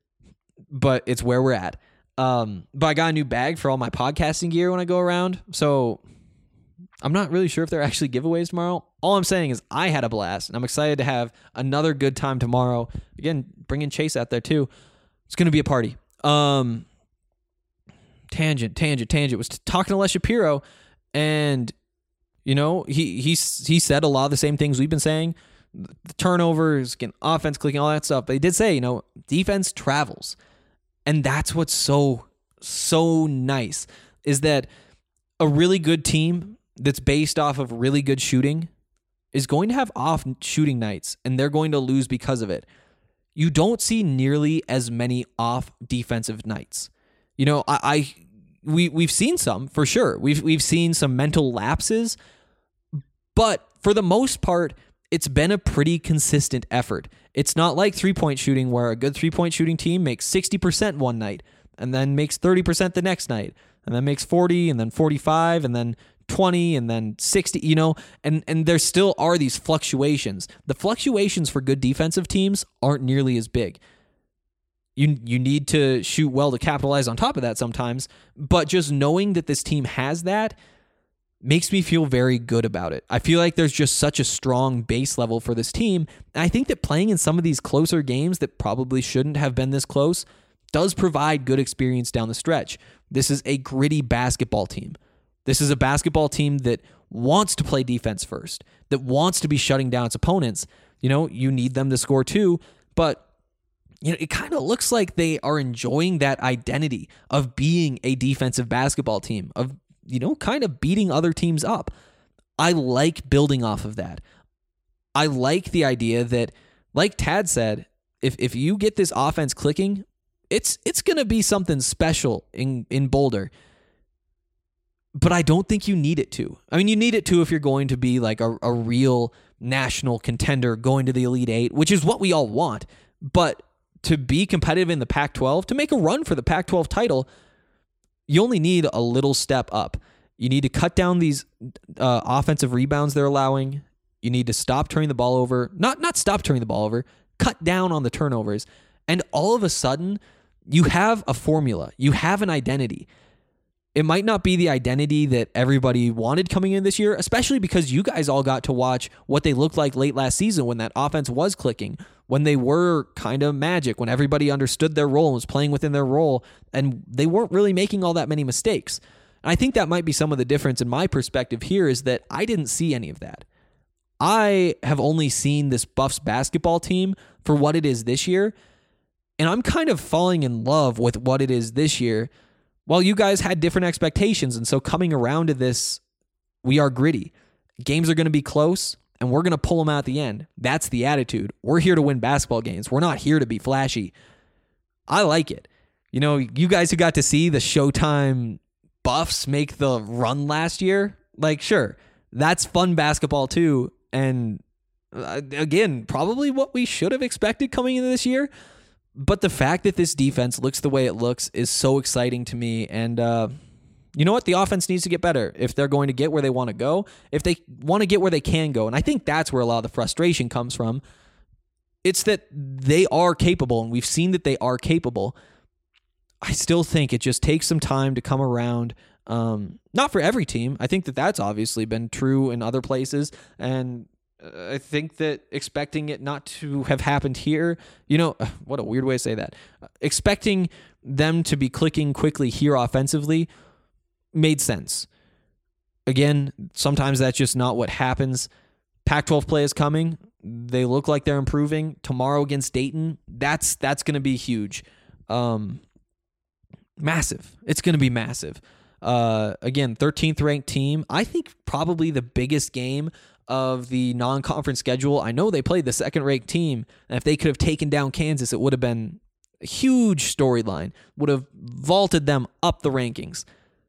but it's where we're at. Um, but I got a new bag for all my podcasting gear when I go around, so I'm not really sure if there are actually giveaways tomorrow. All I'm saying is I had a blast, and I'm excited to have another good time tomorrow. Again, bringing Chase out there too. It's going to be a party. Um... Tangent, tangent, tangent. Was talking to Les Shapiro, and you know he he he said a lot of the same things we've been saying. The turnovers, getting offense clicking, all that stuff. But he did say, you know, defense travels, and that's what's so so nice is that a really good team that's based off of really good shooting is going to have off shooting nights, and they're going to lose because of it. You don't see nearly as many off defensive nights. You know, I, I we we've seen some for sure. We've we've seen some mental lapses, but for the most part, it's been a pretty consistent effort. It's not like three-point shooting where a good three-point shooting team makes sixty percent one night and then makes thirty percent the next night and then makes forty and then forty-five and then twenty and then sixty, you know, and and there still are these fluctuations. The fluctuations for good defensive teams aren't nearly as big. You you need to shoot well to capitalize on top of that sometimes, but just knowing that this team has that makes me feel very good about it. I feel like there's just such a strong base level for this team, and I think that playing in some of these closer games that probably shouldn't have been this close does provide good experience down the stretch. This is a gritty basketball team. This is a basketball team that wants to play defense first, that wants to be shutting down its opponents. You know, you need them to score too, but you know, it kind of looks like they are enjoying that identity of being a defensive basketball team, of, you know, kind of beating other teams up. I like building off of that. I like the idea that, like Tad said, if if you get this offense clicking, it's it's going to be something special in, in Boulder. But I don't think you need it to. I mean, you need it to if you're going to be like a, a real national contender going to the Elite Eight, which is what we all want. But to be competitive in the Pac twelve, to make a run for the Pac twelve title, you only need a little step up. You need to cut down these uh, offensive rebounds they're allowing. You need to stop turning the ball over. Not not stop turning the ball over. Cut down on the turnovers. And all of a sudden, you have a formula. You have an identity. It might not be the identity that everybody wanted coming in this year, especially because you guys all got to watch what they looked like late last season when that offense was clicking, when they were kind of magic, when everybody understood their role and was playing within their role, and they weren't really making all that many mistakes. And I think that might be some of the difference in my perspective here is that I didn't see any of that. I have only seen this Buffs basketball team for what it is this year, and I'm kind of falling in love with what it is this year. Well, you guys had different expectations, and so coming around to this, we are gritty. Games are going to be close, and we're going to pull them out at the end. That's the attitude. We're here to win basketball games. We're not here to be flashy. I like it. You know, you guys who got to see the Showtime Buffs make the run last year, like, sure, that's fun basketball too, and uh, again, probably what we should have expected coming into this year. But the fact that this defense looks the way it looks is so exciting to me. And uh, you know what? The offense needs to get better if they're going to get where they want to go, if they want to get where they can go. And I think that's where a lot of the frustration comes from. It's that they are capable, and we've seen that they are capable. I still think it just takes some time to come around. Um, not for every team. I think that that's obviously been true in other places. And I think that expecting it not to have happened here, you know, what a weird way to say that. Expecting them to be clicking quickly here offensively made sense. Again, sometimes that's just not what happens. Pac twelve play is coming. They look like they're improving. Tomorrow against Dayton, that's that's going to be huge. Um, massive. It's going to be massive. Uh, again, thirteenth ranked team. I think probably the biggest game of the non-conference schedule. I know they played the second-ranked team, and if they could have taken down Kansas, it would have been a huge storyline, would have vaulted them up the rankings.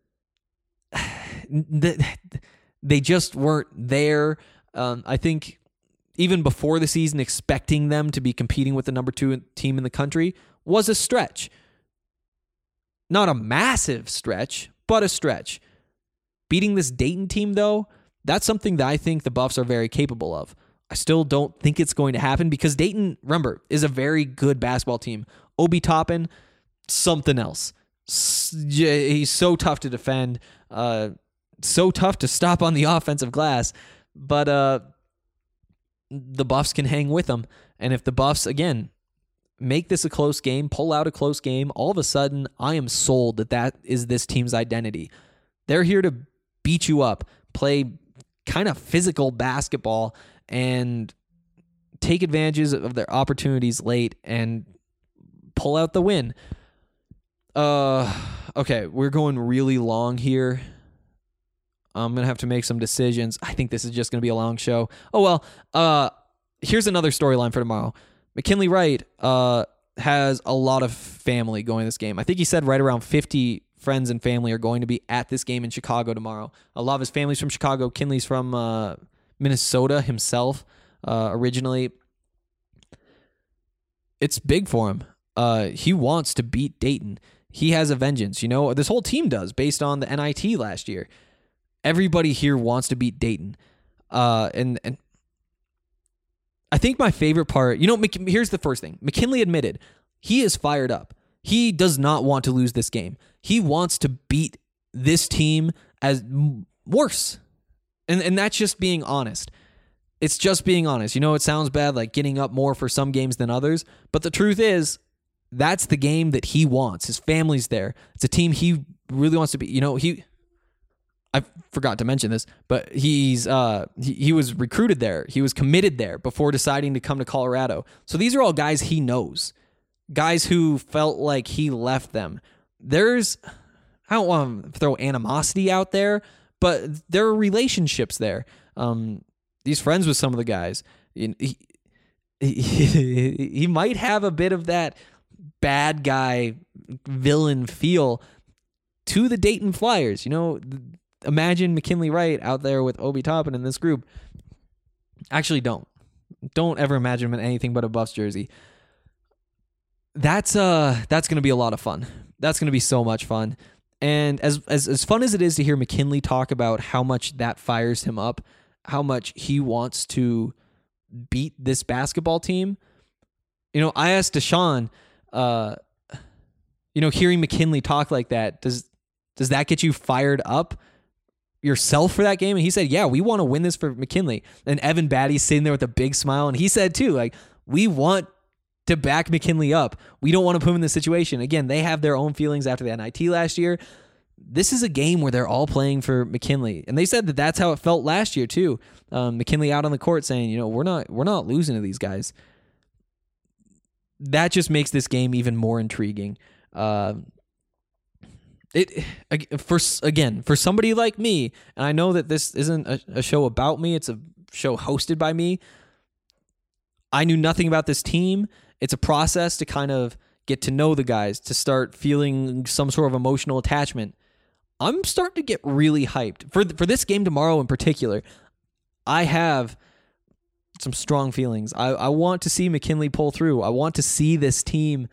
They just weren't there. Um, I think even before the season, expecting them to be competing with the number two team in the country was a stretch. Not a massive stretch, but a stretch. Beating this Dayton team, though, that's something that I think the Buffs are very capable of. I still don't think it's going to happen because Dayton, remember, is a very good basketball team. Obi Toppin, something else. He's so tough to defend, uh, so tough to stop on the offensive glass, but uh, the Buffs can hang with him. And if the Buffs, again, make this a close game, pull out a close game, all of a sudden, I am sold that that is this team's identity. They're here to beat you up, play kind of physical basketball, and take advantages of their opportunities late and pull out the win. Uh, okay, we're going really long here. I'm going to have to make some decisions. I think this is just going to be a long show. Oh, well, uh, here's another storyline for tomorrow. McKinley Wright uh, has a lot of family going to this game. I think he said right around fifty friends and family are going to be at this game in Chicago tomorrow. A lot of his family's from Chicago. Kinley's from uh, Minnesota himself uh, originally. It's big for him. Uh, he wants to beat Dayton. He has a vengeance. You know, this whole team does based on the N I T last year. Everybody here wants to beat Dayton. Uh, and, and I think my favorite part, you know, here's the first thing. McKinley admitted he is fired up. He does not want to lose this game. He wants to beat this team as worse. And and that's just being honest. It's just being honest. You know, it sounds bad, like getting up more for some games than others. But the truth is, that's the game that he wants. His family's there. It's a team he really wants to be. You know, he... I forgot to mention this, but he's uh, he, he was recruited there. He was committed there before deciding to come to Colorado. So these are all guys he knows. Guys who felt like he left them. There's, I don't want to throw animosity out there, but there are relationships there. Um, he's friends with some of the guys. He, he, he might have a bit of that bad guy villain feel to the Dayton Flyers. You know, imagine McKinley Wright out there with Obi Toppin in this group. Actually, don't. Don't ever imagine him in anything but a Buffs jersey. That's uh that's going to be a lot of fun. That's going to be so much fun. And as, as as fun as it is to hear McKinley talk about how much that fires him up, how much he wants to beat this basketball team, you know, I asked Deshaun, uh, you know, hearing McKinley talk like that, does does that get you fired up yourself for that game? And he said, yeah, we want to win this for McKinley. And Evan Batty's sitting there with a big smile, and he said too, like, we want to back McKinley up. We don't want to put him in this situation. Again, they have their own feelings after the N I T last year. This is a game where they're all playing for McKinley, and they said that that's how it felt last year too. Um, McKinley out on the court saying, you know, we're not we're not losing to these guys. That just makes this game even more intriguing. Uh, it for again for somebody like me, and I know that this isn't a, a show about me. It's a show hosted by me. I knew nothing about this team. It's a process to kind of get to know the guys, to start feeling some sort of emotional attachment. I'm starting to get really hyped. For for this game tomorrow in particular, I have some strong feelings. I, I want to see McKinley pull through. I want to see this team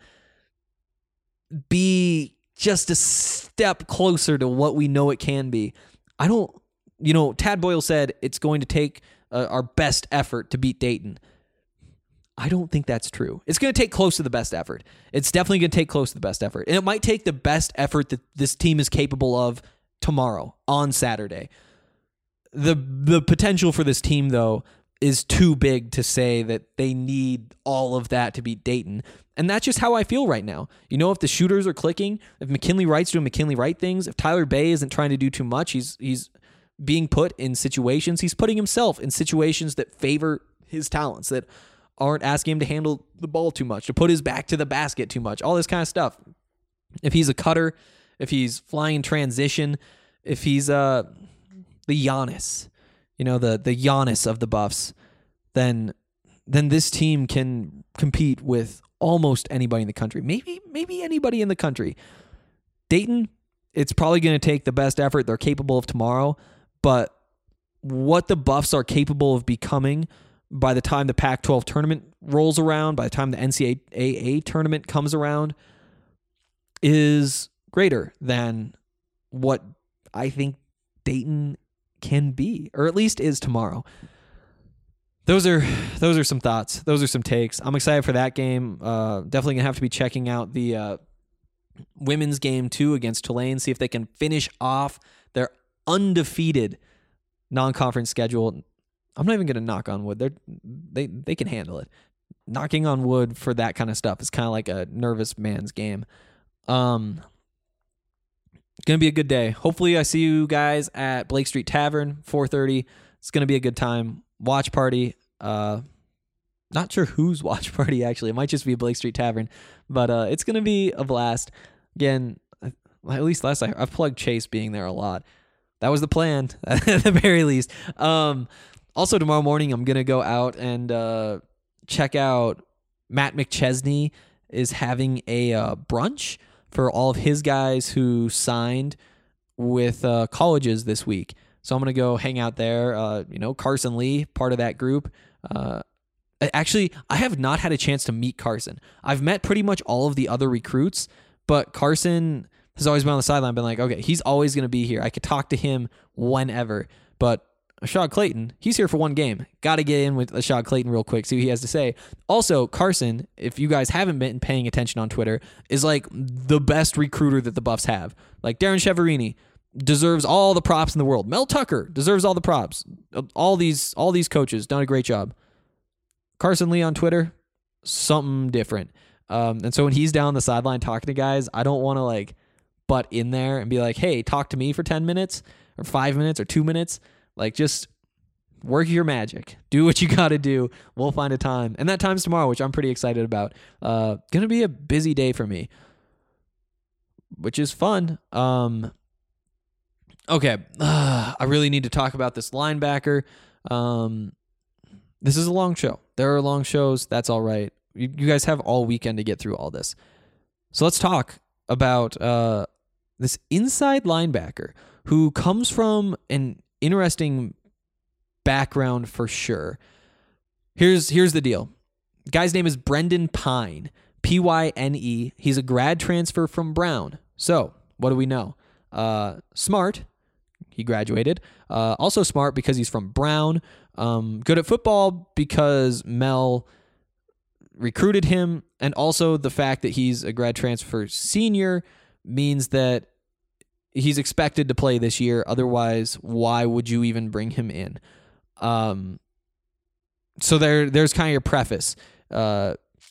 be just a step closer to what we know it can be. I don't, you know, Tad Boyle said it's going to take uh, our best effort to beat Dayton. I don't think that's true. It's going to take close to the best effort. It's definitely going to take close to the best effort. And it might take the best effort that this team is capable of tomorrow, on Saturday. The the potential for this team, though, is too big to say that they need all of that to beat Dayton. And that's just how I feel right now. You know, if the shooters are clicking, if McKinley Wright's doing McKinley Wright things, if Tyler Bay isn't trying to do too much, he's he's being put in situations, he's putting himself in situations that favor his talents, that aren't asking him to handle the ball too much, to put his back to the basket too much, all this kind of stuff. If he's a cutter, if he's flying in transition, if he's uh the Giannis, you know, the the Giannis of the Buffs, then then this team can compete with almost anybody in the country. Maybe maybe anybody in the country. Dayton, it's probably going to take the best effort they're capable of tomorrow, but what the Buffs are capable of becoming by the time the Pac twelve tournament rolls around, by the time the N C double A tournament comes around, is greater than what I think Dayton can be, or at least is tomorrow. Those are those are some thoughts. Those are some takes. I'm excited for that game. Uh, definitely going to have to be checking out the uh, women's game too against Tulane, see if they can finish off their undefeated non-conference schedule. I'm not even going to knock on wood. They're, they they can handle it. Knocking on wood for that kind of stuff is kind of like a nervous man's game. Um, going to be a good day. Hopefully I see you guys at Blake Street Tavern, four thirty. It's going to be a good time. Watch party. Uh, not sure whose watch party, actually. It might just be Blake Street Tavern, but uh, it's going to be a blast. Again, at least last I I've plugged Chase being there a lot. That was the plan, at the very least. Um, also, tomorrow morning, I'm going to go out and uh, check out Matt McChesney is having a uh, brunch for all of his guys who signed with uh, colleges this week. So I'm going to go hang out there. Uh, you know, Carson Lee, part of that group. Uh, actually, I have not had a chance to meet Carson. I've met pretty much all of the other recruits, but Carson has always been on the sideline, been like, okay, he's always going to be here. I could talk to him whenever. But Ashad Clayton, he's here for one game. Got to get in with Ashad Clayton real quick, see what he has to say. Also, Carson, if you guys haven't been paying attention on Twitter, is like the best recruiter that the Buffs have. Like Darren Cheverini deserves all the props in the world. Mel Tucker deserves all the props. All these all these coaches done a great job. Carson Lee on Twitter, something different. Um, and so when he's down the sideline talking to guys, I don't want to like butt in there and be like, hey, talk to me for ten minutes or five minutes or two minutes. Like, just work your magic. Do what you got to do. We'll find a time. And that time's tomorrow, which I'm pretty excited about. Uh, going to be a busy day for me, which is fun. Um, okay. Uh, I really need to talk about this linebacker. Um, this is a long show. There are long shows. That's all right. You, you guys have all weekend to get through all this. So let's talk about uh, this inside linebacker who comes from an interesting background for sure. Here's here's the deal. Guy's name is Brendan Pine, P Y N E. He's a grad transfer from Brown. So what do we know? Uh, smart. He graduated. Uh, also smart because he's from Brown. Um, good at football because Mel recruited him. And also the fact that he's a grad transfer senior means that he's expected to play this year. Otherwise, why would you even bring him in? Um, so there, there's kind of your preface. Uh,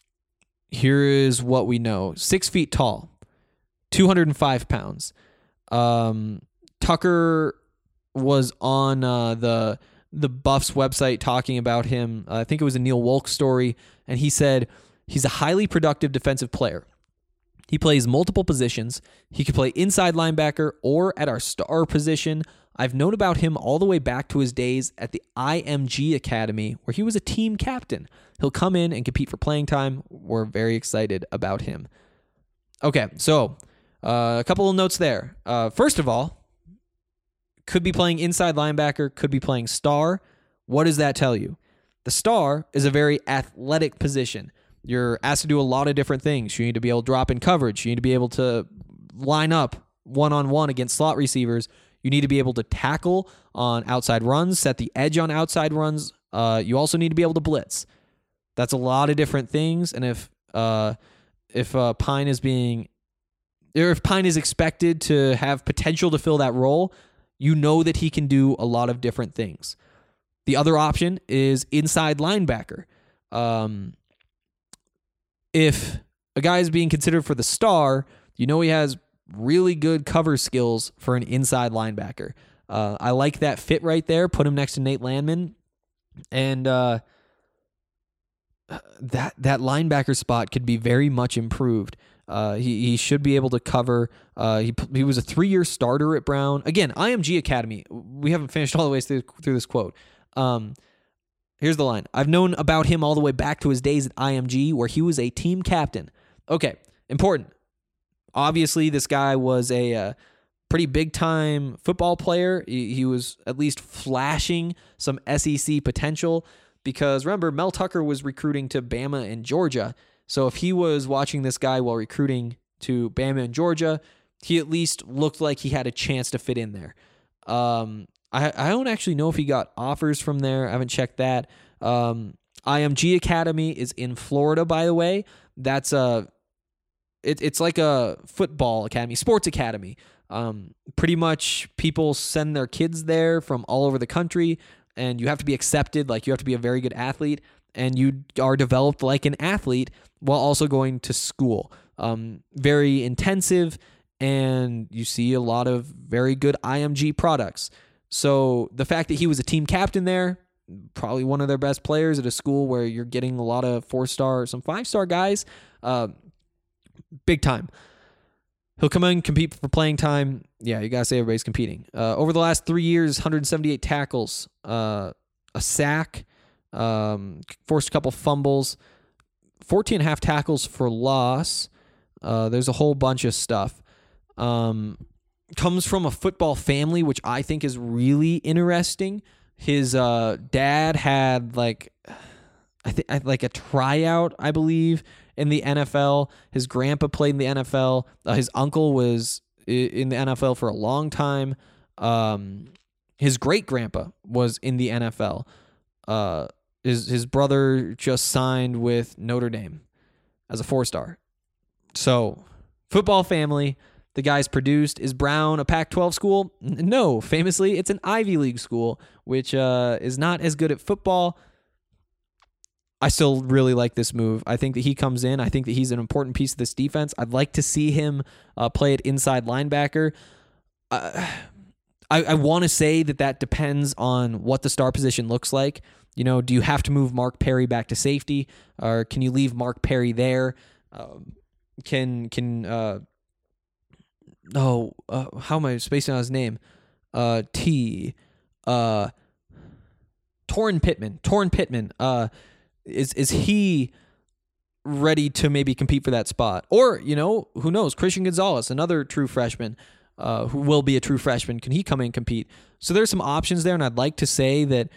here is what we know. Six feet tall, two hundred five pounds. Um, Tucker was on uh, the the Buffs website talking about him. Uh, I think it was a Neil Wolk story, and he said he's a highly productive defensive player. He plays multiple positions. He could play inside linebacker or at our star position. I've known about him all the way back to his days at the I M G Academy, where he was a team captain. He'll come in and compete for playing time. We're very excited about him. Okay, so uh, a couple of notes there. Uh, first of all, could be playing inside linebacker, could be playing star. What does that tell you? The star is a very athletic position. You're asked to do a lot of different things. You need to be able to drop in coverage. You need to be able to line up one-on-one against slot receivers. You need to be able to tackle on outside runs, set the edge on outside runs. Uh, you also need to be able to blitz. That's a lot of different things. And if uh, if uh, Pine is being, or if Pine is expected to have potential to fill that role, you know that he can do a lot of different things. The other option is inside linebacker. Um, if a guy is being considered for the star, you know he has really good cover skills for an inside linebacker. Uh, I like that fit right there. Put him next to Nate Landman. And uh, that that linebacker spot could be very much improved. Uh, he he should be able to cover. Uh, he he was a three-year starter at Brown. Again, I M G Academy. We haven't finished all the way through, through this quote. Um, here's the line. I've known about him all the way back to his days at I M G, where he was a team captain. Okay, important. Obviously, this guy was a uh, pretty big-time football player. He, he was at least flashing some S E C potential because, remember, Mel Tucker was recruiting to Bama and Georgia. So if he was watching this guy while recruiting to Bama and Georgia, he at least looked like he had a chance to fit in there. Um, I, I don't actually know if he got offers from there. I haven't checked that. Um, I M G Academy is in Florida, by the way. That's a, it, it's like a football academy, sports academy. Um, pretty much people send their kids there from all over the country, and you have to be accepted. Like, you have to be a very good athlete, and you are developed like an athlete while also going to school. Um, very intensive, and you see a lot of very good I M G products. So the fact that he was a team captain there, probably one of their best players at a school where you're getting a lot of four-star, some five-star guys, uh, big time. He'll come in, compete for playing time. Yeah, you got to say everybody's competing. Uh, over the last three years, one hundred seventy-eight tackles, uh, a sack, um, forced a couple fumbles, fourteen and a half tackles for loss. Uh, there's a whole bunch of stuff. Um, comes from a football family, which I think is really interesting. His uh, dad had like, I think like a tryout, I believe, in the N F L. His grandpa played in the N F L. Uh, his uncle was in the N F L for a long time. Um, his great grandpa was in the N F L. Uh, his his brother just signed with Notre Dame as a four-star. So, football family. The guy's produced. Is Brown a Pac twelve school? N- no. Famously, it's an Ivy League school, which uh, is not as good at football. I still really like this move. I think that he comes in. I think that he's an important piece of this defense. I'd like to see him uh, play at inside linebacker. Uh, I, I want to say that that depends on what the star position looks like. You know, do you have to move Mark Perry back to safety, or can you leave Mark Perry there? Um, can can uh, oh uh, how am I spacing on his name? Uh, T. Uh, Torrin Pittman. Torrin Pittman. Uh. Is is he ready to maybe compete for that spot? Or, you know, who knows? Christian Gonzalez, another true freshman, uh, who will be a true freshman. Can he come in and compete? So there's some options there, and I'd like to say that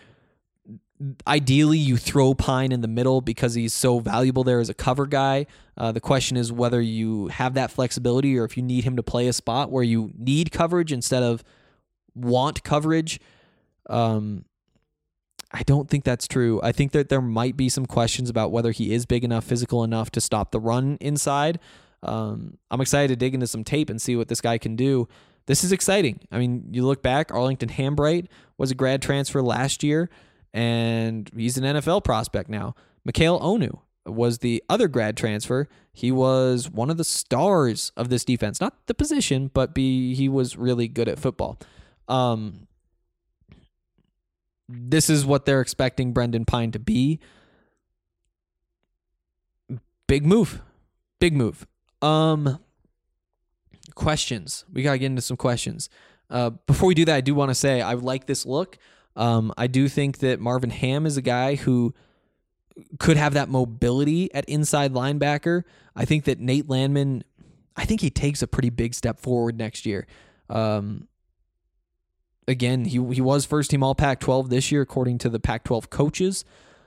ideally you throw Pine in the middle because he's so valuable there as a cover guy. Uh, the question is whether you have that flexibility or if you need him to play a spot where you need coverage instead of want coverage. Um I don't think that's true. I think that there might be some questions about whether he is big enough, physical enough to stop the run inside. Um, I'm excited to dig into some tape and see what this guy can do. This is exciting. I mean, you look back, Arlington Hambright was a grad transfer last year, and he's an N F L prospect now. Mikhail Onu was the other grad transfer. He was one of the stars of this defense. Not the position, but be, he was really good at football. Um, This is what they're expecting Brendan Pine to be. Big move. Big move. Um, questions. We got to get into some questions. Uh, before we do that, I do want to say I like this look. Um, I do think that Marvin Ham is a guy who could have that mobility at inside linebacker. I think that Nate Landman, I think he takes a pretty big step forward next year. Um, Again, he he was first team all Pac twelve this year, according to the Pac twelve coaches.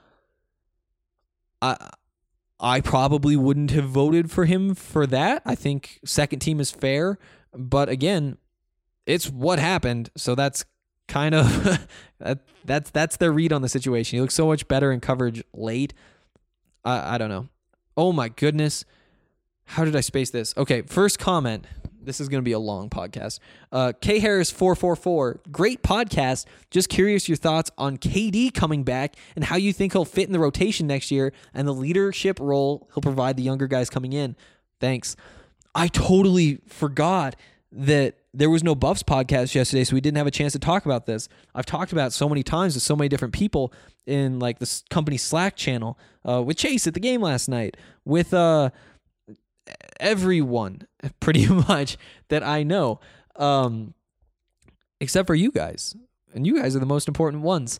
I I probably wouldn't have voted for him for that. I think second team is fair, but again, it's what happened. So that's kind of that, that's that's their read on the situation. He looks so much better in coverage late. I I don't know. Oh my goodness, how did I space this? Okay, first comment. This is going to be a long podcast. Uh, K Harris four four four, great podcast. Just curious your thoughts on K D coming back and how you think he'll fit in the rotation next year and the leadership role he'll provide the younger guys coming in. Thanks. I totally forgot that there was no Buffs podcast yesterday, so we didn't have a chance to talk about this. I've talked about it so many times with so many different people in like this company Slack channel, uh, with Chase at the game last night, with uh. everyone pretty much that I know, um, except for you guys. And you guys are the most important ones.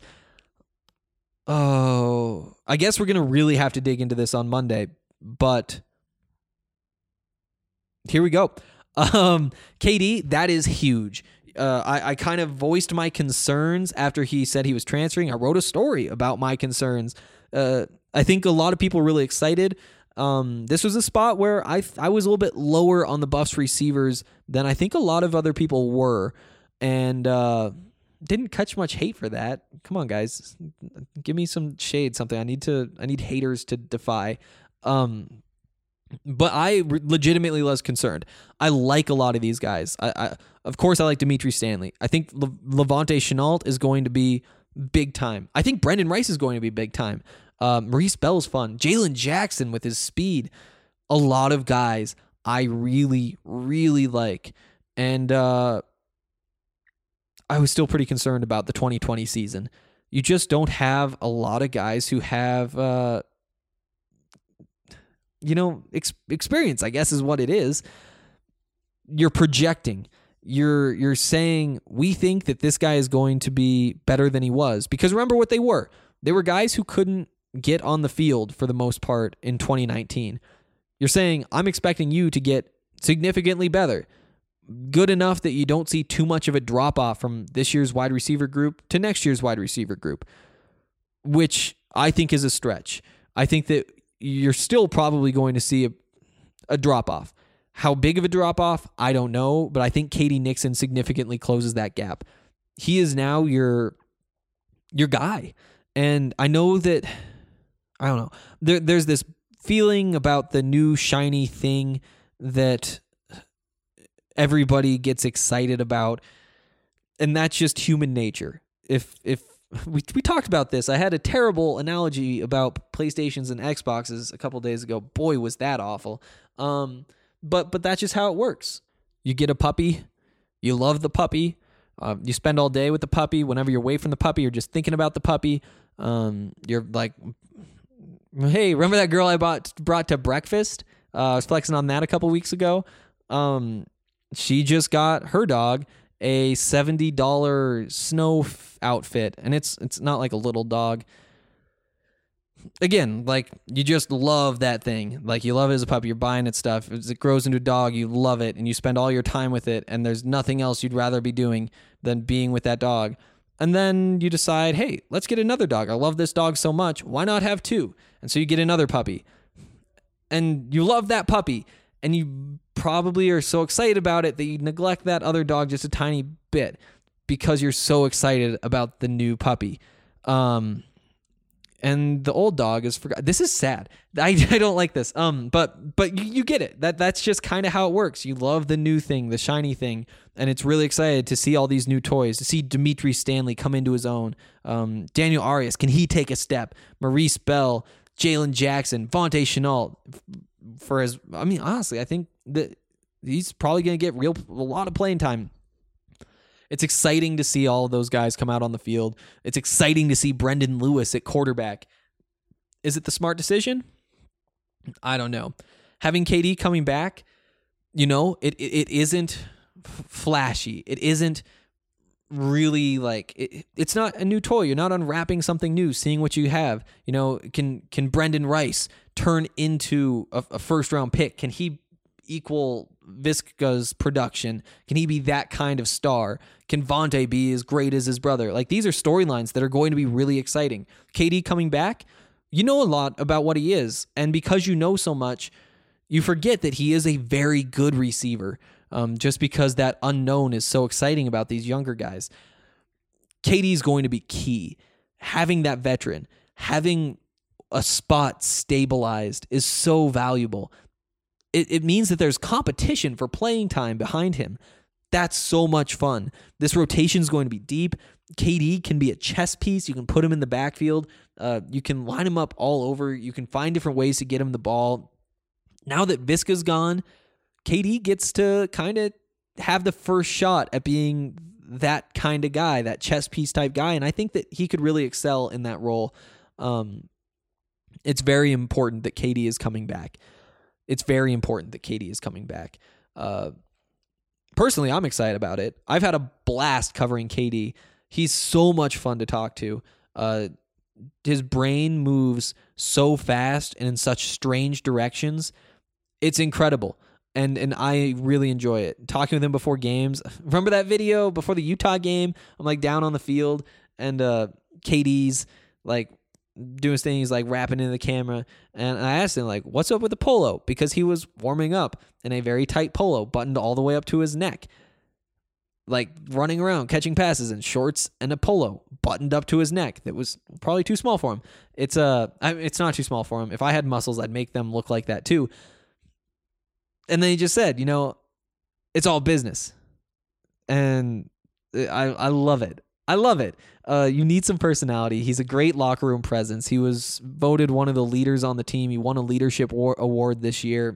Oh, I guess we're going to really have to dig into this on Monday, but here we go. Um, K D, that is huge. Uh, I, I kind of voiced my concerns after he said he was transferring. I wrote a story about my concerns. Uh, I think a lot of people were really excited. Um, this was a spot where I I was a little bit lower on the Buffs receivers than I think a lot of other people were, and uh, didn't catch much hate for that. Come on, guys, give me some shade, something. I need to. I need haters to defy. Um, but I re- legitimately was concerned. I like a lot of these guys. I, I of course I like Dimitri Stanley. I think Le- Levante Chenault is going to be big time. I think Brendan Rice is going to be big time. Uh, Maurice Bell's fun. Jalen Jackson with his speed. A lot of guys I really, really like. And uh, I was still pretty concerned about the twenty twenty season. You just don't have a lot of guys who have, uh, you know, ex- experience, I guess is what it is. You're projecting. You're you're saying, we think that this guy is going to be better than he was. Because remember what they were. They were guys who couldn't get on the field for the most part in twenty nineteen. You're saying, I'm expecting you to get significantly better. Good enough that you don't see too much of a drop-off from this year's wide receiver group to next year's wide receiver group, which I think is a stretch. I think that you're still probably going to see a, a drop-off. How big of a drop-off, I don't know, but I think K D Nixon significantly closes that gap. He is now your, your guy. And I know that, I don't know, there, there's this feeling about the new shiny thing that everybody gets excited about, and that's just human nature. If if we we talked about this, I had a terrible analogy about PlayStations and Xboxes a couple days ago. Boy, was that awful. Um, but but that's just how it works. You get a puppy, you love the puppy, uh, you spend all day with the puppy. Whenever you're away from the puppy, you're just thinking about the puppy. Um, you're like, hey, remember that girl I bought brought to breakfast? Uh, I was flexing on that a couple weeks ago. Um, she just got her dog a seventy dollars snow f- outfit, and it's it's not like a little dog. Again, like, you just love that thing. Like, you love it as a puppy. You're buying it stuff. As it grows into a dog, you love it, and you spend all your time with it, and there's nothing else you'd rather be doing than being with that dog. And then you decide, hey, let's get another dog. I love this dog so much. Why not have two? And so you get another puppy. And you love that puppy, and you probably are so excited about it that you neglect that other dog just a tiny bit because you're so excited about the new puppy. Um, and the old dog is forgot. This is sad. I, I don't like this. Um, but but you, you get it. That that's just kind of how it works. You love the new thing, the shiny thing, and it's really excited to see all these new toys. To see Dimitri Stanley come into his own. Um, Daniel Arias, can he take a step? Maurice Bell, Jalen Jackson, Vontae Chenault. For his, I mean, honestly, I think that he's probably going to get real a lot of playing time. It's exciting to see all of those guys come out on the field. It's exciting to see Brendan Lewis at quarterback. Is it the smart decision? I don't know. Having K D coming back, you know, it it, it isn't f- flashy. It isn't really like it, it's not a new toy. You're not unwrapping something new, seeing what you have. You know, can can Brendan Rice turn into a, a first round pick? Can he equal Visca's production? Can he be that kind of star? Can Vontae be as great as his brother? Like, these are storylines that are going to be really exciting. K D coming back, you know a lot about what he is, and because you know so much, you forget that he is a very good receiver. Um, just because that unknown is so exciting about these younger guys. K D is going to be key. Having that veteran, having a spot stabilized is so valuable. It, it means that there's competition for playing time behind him. That's so much fun. This rotation is going to be deep. K D can be a chess piece. You can put him in the backfield. Uh, you can line him up all over. You can find different ways to get him the ball. Now that Visca's gone, K D gets to kind of have the first shot at being that kind of guy, that chess piece type guy, and I think that he could really excel in that role. Um, it's very important that K D is coming back. it's very important that K D is coming back. Uh, personally, I'm excited about it. I've had a blast covering K D. He's so much fun to talk to. Uh, his brain moves so fast and in such strange directions. It's incredible. And and I really enjoy it. Talking with him before games. Remember that video before the Utah game? I'm like down on the field and uh, K D's like doing things like rapping into the camera. And I asked him like, what's up with the polo? Because he was warming up in a very tight polo buttoned all the way up to his neck. Like running around, catching passes in shorts and a polo buttoned up to his neck. That was probably too small for him. It's uh, it's not too small for him. If I had muscles, I'd make them look like that too. And then he just said, you know, it's all business. And I I love it. I love it. Uh, you need some personality. He's a great locker room presence. He was voted one of the leaders on the team. He won a leadership war- award this year.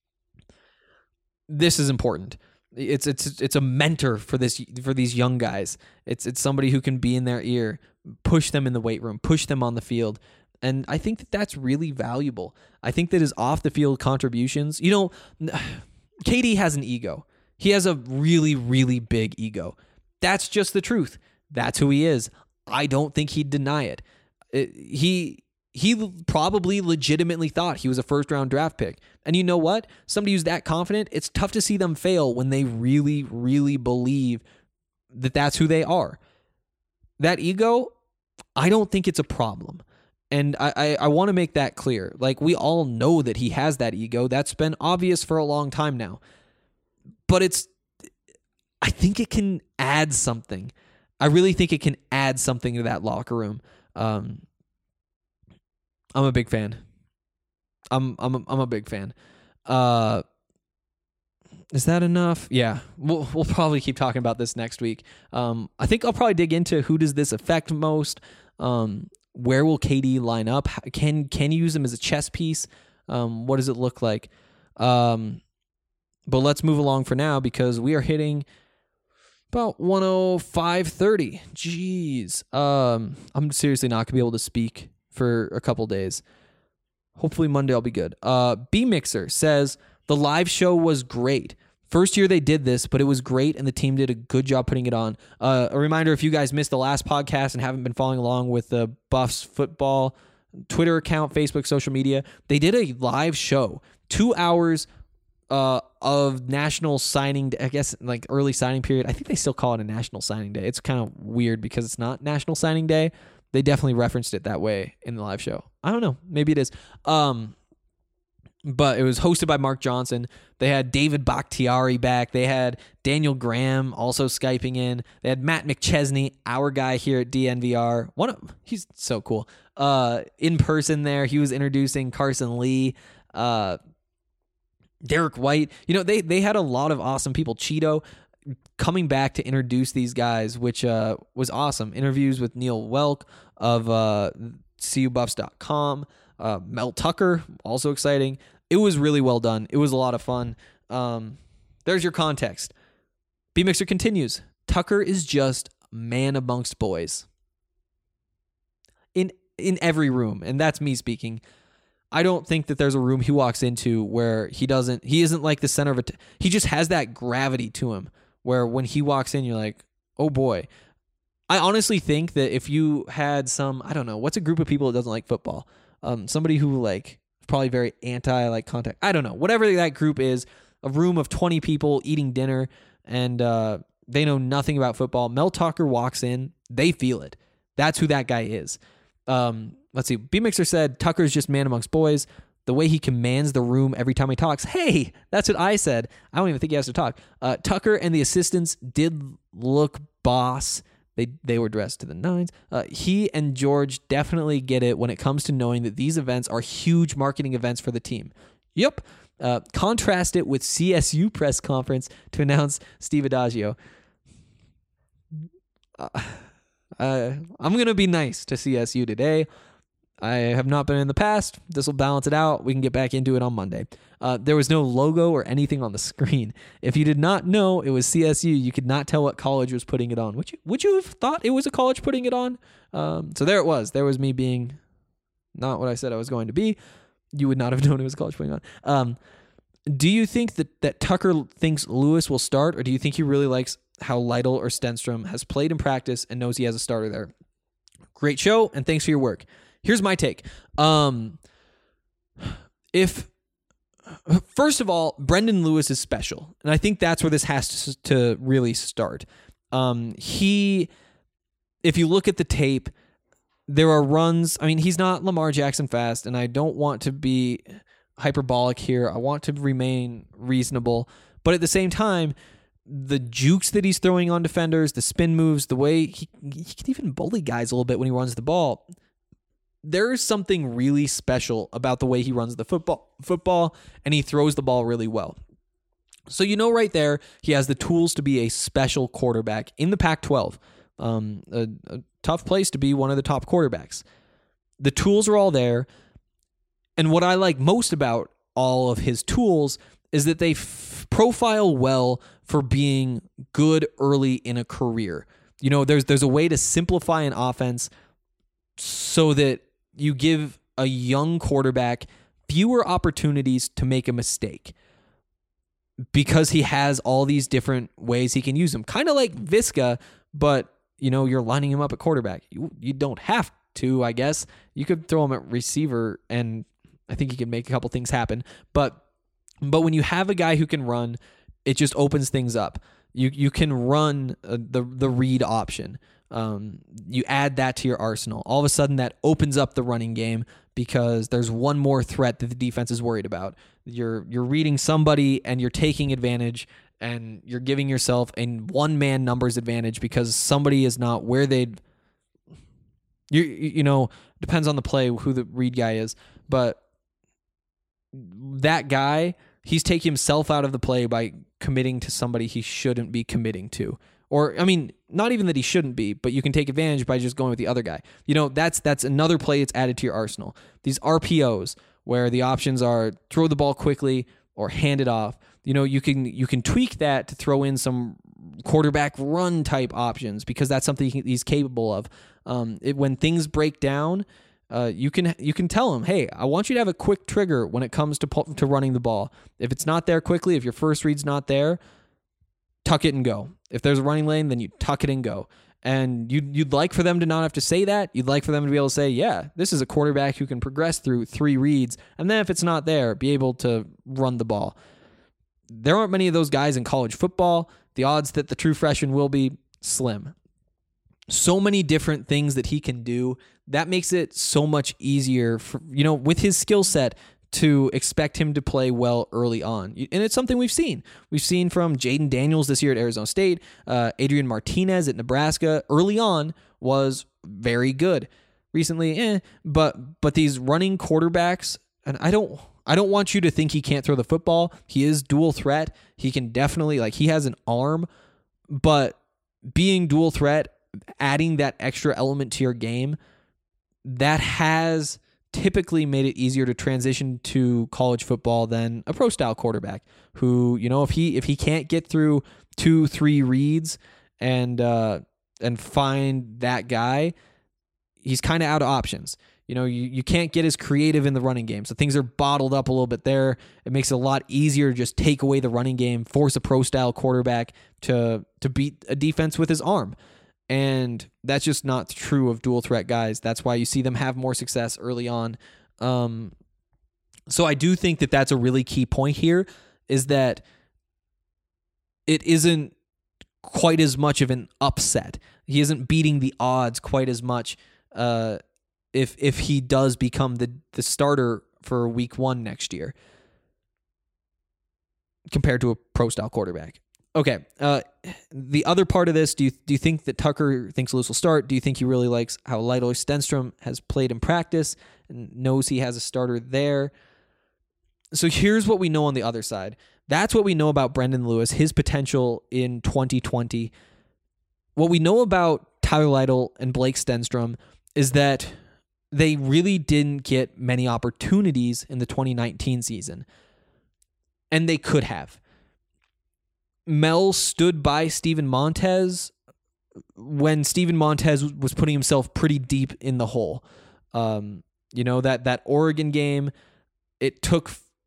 This is important. It's it's it's a mentor for this for these young guys. It's it's somebody who can be in their ear, push them in the weight room, push them on the field. And I think that that's really valuable. I think that his off-the-field contributions, you know, K D has an ego. He has a really, really big ego. That's just the truth. That's who he is. I don't think he'd deny it. it he he probably legitimately thought he was a first-round draft pick. And you know what? Somebody who's that confident, it's tough to see them fail when they really, really believe that that's who they are. That ego, I don't think it's a problem. And I, I, I want to make that clear. Like, we all know that he has that ego. That's been obvious for a long time now. But it's, I think it can add something. I really think it can add something to that locker room. Um, I'm a big fan. I'm I'm a, I'm a big fan. Uh, is that enough? Yeah, we'll we'll probably keep talking about this next week. Um, I think I'll probably dig into who does this affect most. Um, where will K D line up? Can can you use him as a chess piece? Um, what does it look like? Um, but let's move along for now because we are hitting about one oh five thirty. Jeez. Um, I'm seriously not going to be able to speak for a couple days. Hopefully Monday I'll be good. Uh, B-Mixer says, the live show was great. First year they did this, but it was great, and the team did a good job putting it on. Uh, a reminder, if you guys missed the last podcast and haven't been following along with the Buffs football Twitter account, Facebook, social media, they did a live show, two hours uh, of national signing, I guess like early signing period. I think they still call it a national signing day. It's kind of weird because it's not National Signing Day. They definitely referenced it that way in the live show. I don't know. Maybe it is. Um, but it was hosted by Mark Johnson. They had David Bakhtiari back. They had Daniel Graham also Skyping in. They had Matt McChesney, our guy here at D N V R. One of, he's so cool. Uh, in person there, he was introducing Carson Lee, uh, Derek White. You know, they they had a lot of awesome people. Cheeto coming back to introduce these guys, which uh, was awesome. Interviews with Neil Welk of uh, C U Buffs dot com. Uh, Mel Tucker, also exciting. It was really well done. It was a lot of fun. Um, there's your context. B-Mixer continues. Tucker is just man amongst boys. In in every room, and that's me speaking. I don't think that there's a room he walks into where he doesn't, he isn't like the center of it. He just has that gravity to him where when he walks in, you're like, oh boy. I honestly think that if you had some, I don't know, what's a group of people that doesn't like football? Um, somebody who like probably very anti like contact. I don't know. Whatever that group is, a room of twenty people eating dinner and uh, they know nothing about football. Mel Tucker walks in, they feel it. That's who that guy is. Um, let's see. B-Mixer said Tucker's just man amongst boys. The way he commands the room every time he talks. Hey, that's what I said. I don't even think he has to talk. Uh, Tucker and the assistants did look boss. They they were dressed to the nines. Uh, he and George definitely get it when it comes to knowing that these events are huge marketing events for the team. Yep. Uh, contrast it with C S U press conference to announce Steve Adagio. Uh, uh, I'm going to be nice to C S U today. I have not been in the past. This will balance it out. We can get back into it on Monday. Uh, there was no logo or anything on the screen. If you did not know it was C S U, you could not tell what college was putting it on. Would you, would you have thought it was a college putting it on? Um, so there it was. There was me being not what I said I was going to be. You would not have known it was a college putting it on. Um, Do you think that, that Tucker thinks Lewis will start, or do you think he really likes how Lytle or Stenstrom has played in practice and knows he has a starter there? Great show, and thanks for your work. Here's my take. Um, if first of all, Brendan Lewis is special, and I think that's where this has to, to really start. Um, he, if you look at the tape, there are runs. I mean, he's not Lamar Jackson fast, and I don't want to be hyperbolic here. I want to remain reasonable, but at the same time, the jukes that he's throwing on defenders, the spin moves, the way he, he can even bully guys a little bit when he runs the ball. There is something really special about the way he runs the football, football, and he throws the ball really well. So you know right there, he has the tools to be a special quarterback in the Pac twelve. Um, a, a tough place to be one of the top quarterbacks. The tools are all there. And what I like most about all of his tools is that they f- profile well for being good early in a career. You know, there's there's a way to simplify an offense so that you give a young quarterback fewer opportunities to make a mistake because he has all these different ways he can use them. Kind of like Viska, but, you know, you're lining him up at quarterback. You, you don't have to, I guess. You could throw him at receiver, and I think he can make a couple things happen. But but when you have a guy who can run, it just opens things up. You you can run uh, the the read option. Um, you add that to your arsenal. All of a sudden, that opens up the running game because there's one more threat that the defense is worried about. You're you're reading somebody and you're taking advantage, and you're giving yourself a one man numbers advantage because somebody is not where they'd. You you know depends on the play who the read guy is, but that guy, he's taking himself out of the play by committing to somebody he shouldn't be committing to. Or, I mean, not even that he shouldn't be, but you can take advantage by just going with the other guy. You know, that's that's another play that's added to your arsenal. These R P Os, where the options are throw the ball quickly or hand it off. You know, you can you can tweak that to throw in some quarterback run type options because that's something he's capable of. Um, it, when things break down, Uh, you can you can tell him, hey, I want you to have a quick trigger when it comes to to running the ball. If it's not there quickly, if your first read's not there, tuck it and go. If there's a running lane, then you tuck it and go. And you'd, you'd like for them to not have to say that. You'd like for them to be able to say, yeah, this is a quarterback who can progress through three reads. And then if it's not there, be able to run the ball. There aren't many of those guys in college football. The odds that the true freshman will be slim. So many different things that he can do. That makes it so much easier for, you know, with his skill set to expect him to play well early on. And it's something we've seen. We've seen from Jaden Daniels this year at Arizona State, uh, Adrian Martinez at Nebraska early on was very good. Recently, eh, but but these running quarterbacks, and I don't I don't want you to think he can't throw the football. He is dual threat. He can definitely, like, he has an arm, but being dual threat, adding that extra element to your game, that has typically made it easier to transition to college football than a pro style quarterback who, you know, if he if he can't get through two, three reads and uh, and find that guy, he's kind of out of options. You know, you, you can't get as creative in the running game. So things are bottled up a little bit there. It makes it a lot easier to just take away the running game, force a pro style quarterback to to beat a defense with his arm. And that's just not true of dual threat guys. That's why you see them have more success early on. Um, so I do think that that's a really key point here, is that it isn't quite as much of an upset. He isn't beating the odds quite as much uh, if if he does become the, the starter for week one next year compared to a pro-style quarterback. Okay, uh, the other part of this, do you do you think that Tucker thinks Lewis will start? Do you think he really likes how Lytle Stenstrom has played in practice and knows he has a starter there? So here's what we know on the other side. That's what we know about Brendan Lewis, his potential in twenty twenty. What we know about Tyler Lytle and Blake Stenstrom is that they really didn't get many opportunities in the twenty nineteen season, and they could have. Mel stood by Steven Montez when Steven Montez was putting himself pretty deep in the hole. Um, you know, that that Oregon game, it took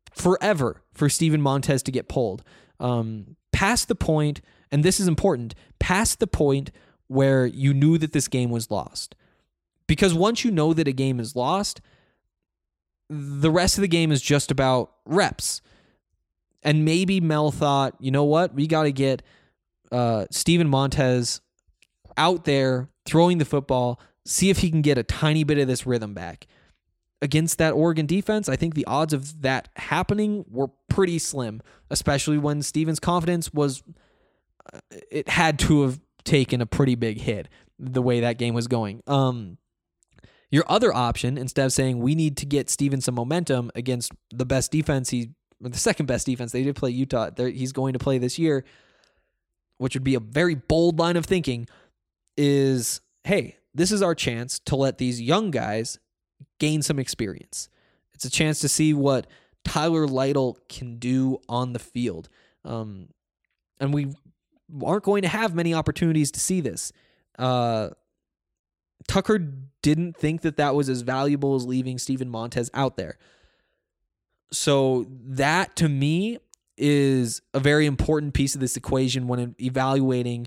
forever for Steven Montez to get pulled. Um, past the point, and this is important, past the point where you knew that this game was lost. Because once you know that a game is lost, the rest of the game is just about reps. And maybe Mel thought, you know what, we got to get uh, Steven Montez out there throwing the football, see if he can get a tiny bit of this rhythm back. Against that Oregon defense, I think the odds of that happening were pretty slim, especially when Steven's confidence was, uh, it had to have taken a pretty big hit the way that game was going. Um, your other option, instead of saying we need to get Steven some momentum against the best defense, he, or the second best defense, they did play Utah, he's going to play this year, which would be a very bold line of thinking, is, hey, this is our chance to let these young guys gain some experience. It's a chance to see what Tyler Lytle can do on the field. Um, and we aren't going to have many opportunities to see this. Uh, Tucker didn't think that that was as valuable as leaving Steven Montez out there. So that, to me, is a very important piece of this equation when evaluating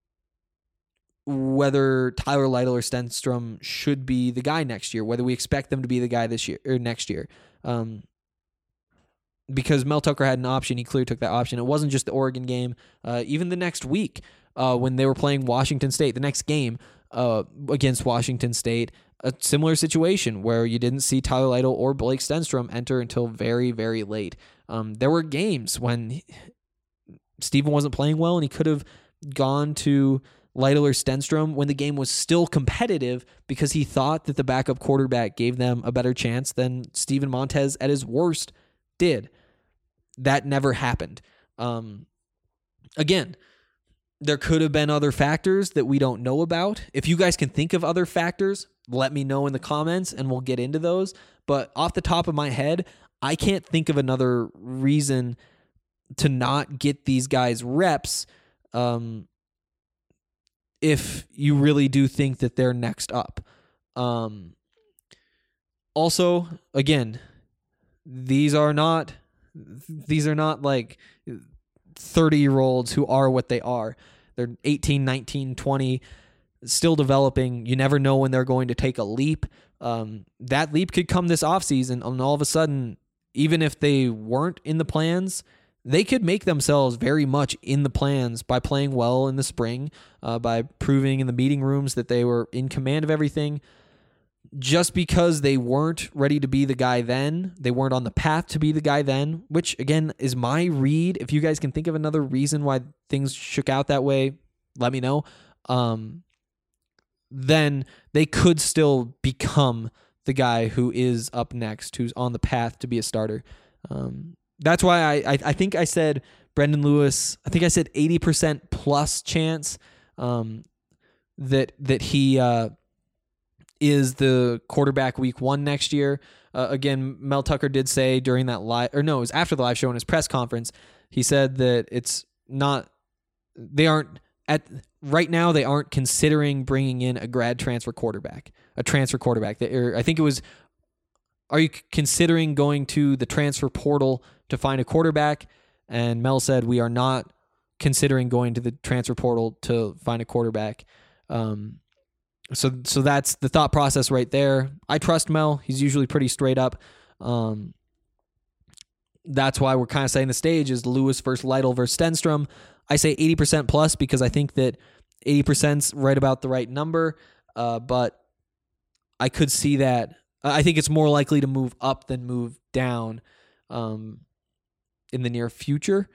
whether Tyler Lytle or Stenstrom should be the guy next year, whether we expect them to be the guy this year or next year. Um, because Mel Tucker had an option, he clearly took that option. It wasn't just the Oregon game. Uh, even the next week, uh, when they were playing Washington State, the next game uh, against Washington State, a similar situation where you didn't see Tyler Lytle or Blake Stenstrom enter until very, very late. Um, there were games when Steven wasn't playing well and he could have gone to Lytle or Stenstrom when the game was still competitive because he thought that the backup quarterback gave them a better chance than Steven Montez at his worst did. That never happened. Um, again, there could have been other factors that we don't know about. If you guys can think of other factors, let me know in the comments and we'll get into those. But off the top of my head, I can't think of another reason to not get these guys reps um, if you really do think that they're next up. Um, also, again, these are not these are not like thirty-year-olds who are what they are. They're eighteen, nineteen, twenty, still developing. You never know when they're going to take a leap. Um, that leap could come this offseason, and all of a sudden, even if they weren't in the plans, they could make themselves very much in the plans by playing well in the spring, uh, by proving in the meeting rooms that they were in command of everything. Just because they weren't ready to be the guy then, they weren't on the path to be the guy then, which, again, is my read. If you guys can think of another reason why things shook out that way, let me know. Um, then they could still become the guy who is up next, who's on the path to be a starter. Um, that's why I, I I think I said Brendan Lewis, I think I said eighty percent plus chance um, that that he uh, is the quarterback week one next year. Uh, again, Mel Tucker did say during that live, or no, it was after the live show in his press conference, he said that it's not, they aren't, at right now, they aren't considering bringing in a grad transfer quarterback, a transfer quarterback. Or I think it was, are you considering going to the transfer portal to find a quarterback? And Mel said, we are not considering going to the transfer portal to find a quarterback. Um, so so that's the thought process right there. I trust Mel. He's usually pretty straight up. Um, that's why we're kind of saying the stage is Lewis versus Lytle versus Stenstrom. I say eighty percent plus because I think that eighty percent's right about the right number, uh, but I could see that. I think it's more likely to move up than move down um, in the near future.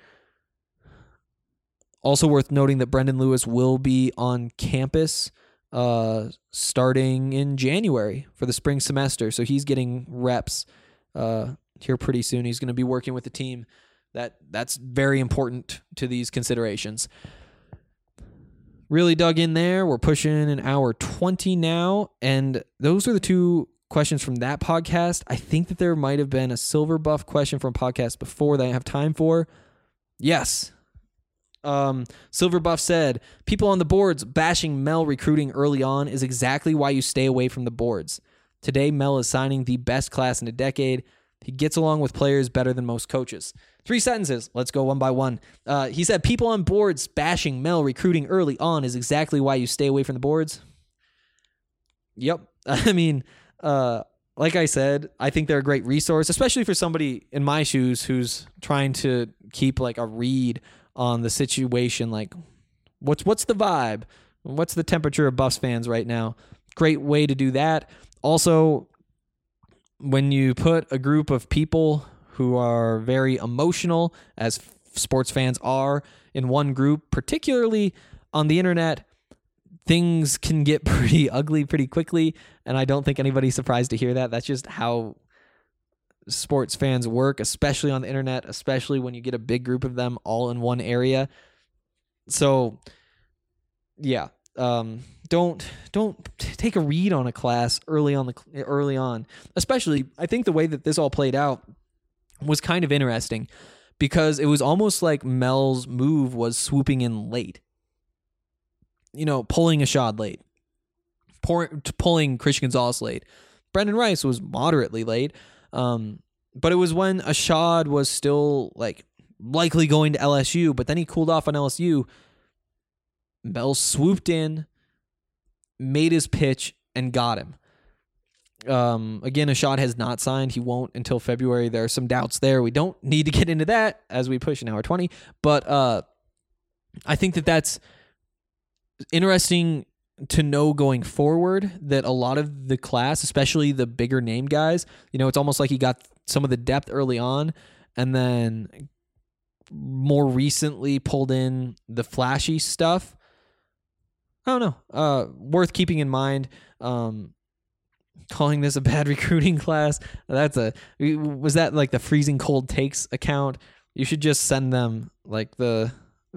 Also worth noting that Brendan Lewis will be on campus uh, starting in January for the spring semester, so he's getting reps uh, here pretty soon. He's going to be working with the team. That that's very important to these considerations. Really dug in there. We're pushing an hour twenty now, and those are the two questions from that podcast. I think that there might have been a Silver Buff question from a podcast before that I have time for. Yes. Um, Silver Buff said, people on the boards bashing Mel recruiting early on is exactly why you stay away from the boards. Today, Mel is signing the best class in a decade. He gets along with players better than most coaches. Three sentences. Let's go one by one. Uh, he said, people on boards bashing Mel recruiting early on is exactly why you stay away from the boards. Yep. I mean, uh, like I said, I think they're a great resource, especially for somebody in my shoes who's trying to keep like a read on the situation. Like, what's what's the vibe? What's the temperature of Buffs fans right now? Great way to do that. Also, when you put a group of people who are very emotional, as sports fans are, in one group, particularly on the internet, things can get pretty ugly pretty quickly, and I don't think anybody's surprised to hear that. That's just how sports fans work, especially on the internet, especially when you get a big group of them all in one area. So, yeah, um, don't don't take a read on a class early on the early on. Especially, I think the way that this all played out was kind of interesting because it was almost like Mel's move was swooping in late. You know, pulling Ashad late, pour, pulling Christian Gonzalez late. Brendan Rice was moderately late, um, but it was when Ashad was still like likely going to L S U, but then he cooled off on L S U. Mel swooped in, made his pitch, and got him. Um, again, Ashad has not signed. He won't until February. There are some doubts there. We don't need to get into that as we push an hour twenty, but uh, I think that that's interesting to know going forward that a lot of the class, especially the bigger name guys, you know, it's almost like he got some of the depth early on and then more recently pulled in the flashy stuff. I don't know. Uh, worth keeping in mind. Um, calling this a bad recruiting class. That's a, was that like the freezing cold takes account? You should just send them like the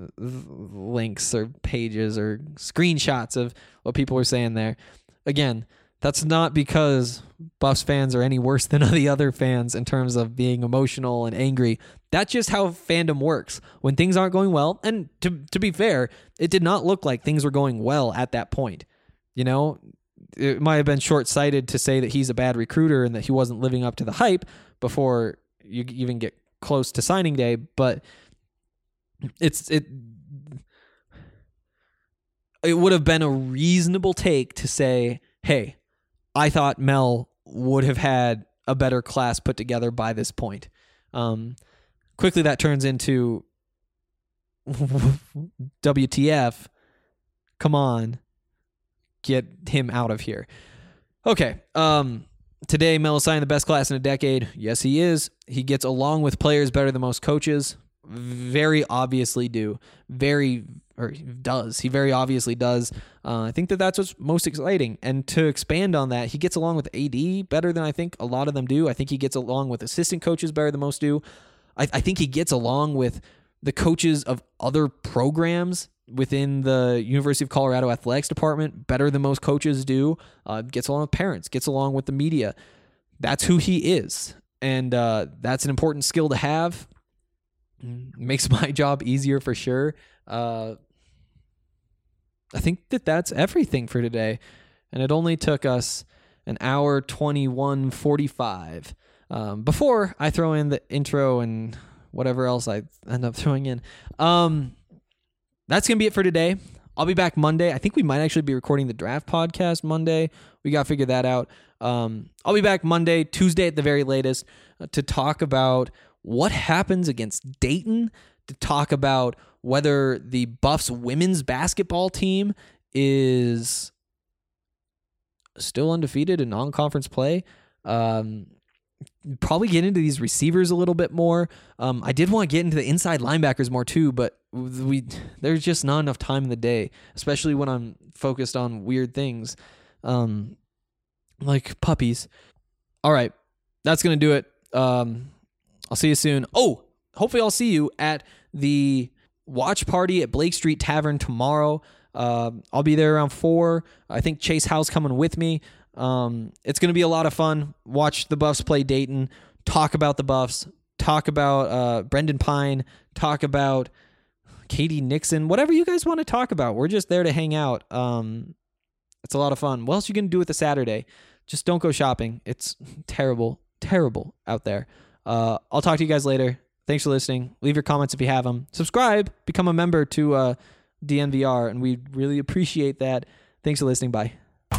links or pages or screenshots of what people were saying there. Again, that's not because Buffs fans are any worse than the other fans in terms of being emotional and angry. That's just how fandom works. When things aren't going well, and to to be fair, it did not look like things were going well at that point. You know, it might have been short-sighted to say that he's a bad recruiter and that he wasn't living up to the hype before you even get close to signing day, but It's it. It would have been a reasonable take to say, "Hey, I thought Mel would have had a better class put together by this point." Um, quickly, that turns into W T F. Come on, get him out of here. Okay. Um, today, Mel is signing the best class in a decade. Yes, he is. He gets along with players better than most coaches. Very obviously do. Very, or he does. He very obviously does. Uh, I think that that's what's most exciting. And to expand on that, he gets along with A D better than I think a lot of them do. I think he gets along with assistant coaches better than most do. I, I think he gets along with the coaches of other programs within the University of Colorado Athletics Department better than most coaches do. Uh, gets along with parents, gets along with the media. That's who he is. And uh, that's an important skill to have. Makes my job easier for sure. Uh, I think that that's everything for today. And it only took us an hour twenty-one forty-five. Um, before I throw in the intro and whatever else I end up throwing in. Um, that's going to be it for today. I'll be back Monday. I think we might actually be recording the draft podcast Monday. We got to figure that out. Um, I'll be back Monday, Tuesday at the very latest, uh, to talk about what happens against Dayton, to talk about whether the Buffs women's basketball team is still undefeated in non-conference play. Um, probably get into these receivers a little bit more. Um, I did want to get into the inside linebackers more too, but we there's just not enough time in the day, especially when I'm focused on weird things, um, like puppies. All right, that's going to do it. Um, I'll see you soon. Oh, hopefully I'll see you at the watch party at Blake Street Tavern tomorrow. Uh, I'll be there around four. I think Chase Howe's coming with me. Um, it's going to be a lot of fun. Watch the Buffs play Dayton, talk about the Buffs, talk about uh, Brendan Pine, talk about Katie Nixon, whatever you guys want to talk about. We're just there to hang out. Um, it's a lot of fun. What else are you going to do with a Saturday? Just don't go shopping. It's terrible. terrible out there. Uh, I'll talk to you guys later. Thanks for listening. Leave your comments if you have them. Subscribe. Become a member to uh, D N V R, and we really appreciate that. Thanks for listening. Bye.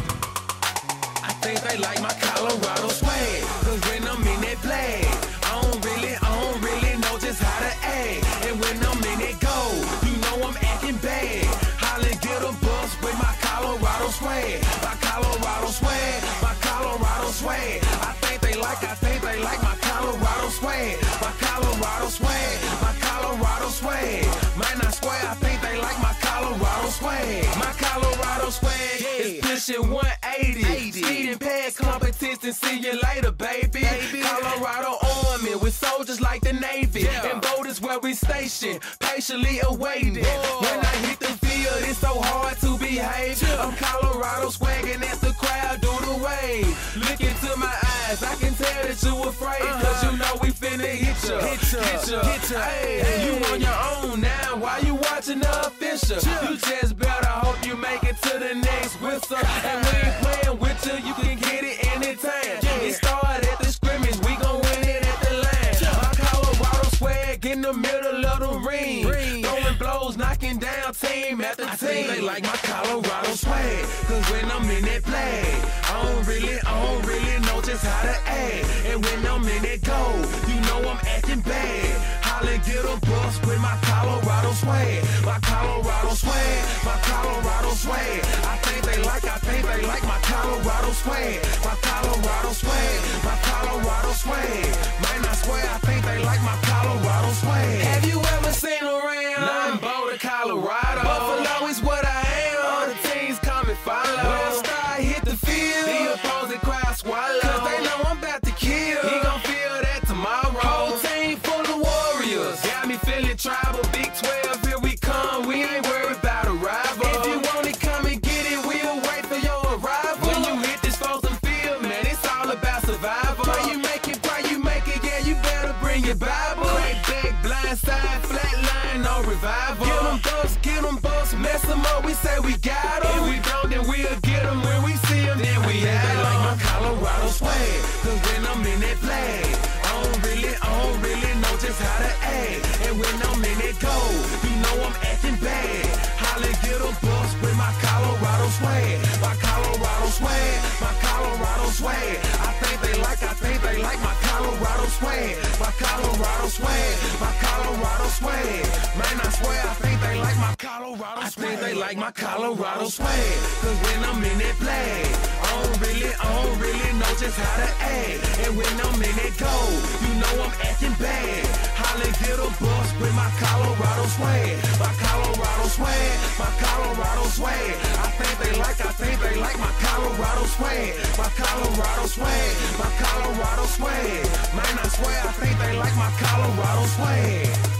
I think they like my Colorado swag, cause when I'm in that play, I don't really, I don't really know just how to act. And when I'm in that go, you know I'm acting bad. Holla, get a bus with my Colorado swag, my Colorado swag, my Colorado swag. I think they like, I think they like my Colorado swag, my Colorado swag, my Colorado swag. Man, I swear, I think they like my Colorado swag, my Colorado swag is pushing one eighty. Speeding past competition, see you later, baby. baby. Colorado Army with soldiers like the Navy. Yeah. And boat is where we station, patiently awaiting. Whoa. When I hit the field, it's so hard to behave. Yeah. I'm Colorado swagging as the crowd do the wave. Look into my eyes, I can tell that you afraid. Uh-huh. Cause you know we finna hit ya, hit ya, hit ya. Hit ya. Hey, hey. You on your own now, why you watching the official? Yeah. You just better hope you make it to the next whistle. And we ain't playing with you, you can get it anytime. Yeah. It started at the scrimmage, we gon' win it at the line. Yeah. My Colorado swag in the middle of the ring. ring. Throwing blows, knocking down team after I team. They like my Colorado swag, cause when I'm in that play, I don't really, I don't really know just how to act. And when I'm in that go, you know I'm acting bad. Holla, get a bus with my Colorado swag, my Colorado swag, my Colorado swag. I think they like, I think they like my Colorado swag, my Colorado swag, my Colorado swag. Man, I swear, I think they like my Colorado swag. Have you ever seen around? Nothing Boulder, Colorado. Buffalo is what I am. All the teams come and follow. When I start hit the field, the opposing crowd swallow. Cause they know I'm about to kill. He gon' feel that tomorrow. Whole team full of warriors. Got me feeling tribal. Big twelve, here we come. We ain't worried about a rival. If you want it, come and get it. We'll wait for your arrival. When you hit this frozen field, man, it's all about survival. Pray you make it, pray you make it. Yeah, you better bring your Bible. Crack back, blind side, flat line, no revival. Get them bucks, get them bucks, mess them up. We say we got them. If we don't, then we'll get them. When we see them, then we have them. They like my Colorado swag, cause when I'm in that flag, I don't really, I don't really know just how to act. And when I'm in that go, you know I'm acting bad. Holla, get a bus with my Colorado swag, my Colorado swag, my Colorado swag. I think they like, I think they like my Colorado swag, my Colorado swag, my Colorado swag. Man, I swear, I think they like my Colorado swag. I think they like my Colorado swag, cause when I'm in that flag, I don't really, I don't really know just how to act. And when I'm in that go, you know I'm acting bad. Holla, get a bus with my Colorado swag, my Colorado swag, my Colorado swag. I think they like, I think they like my Colorado swag, my Colorado swag, my Colorado swag. Man, I swear, I think they like my Colorado swag.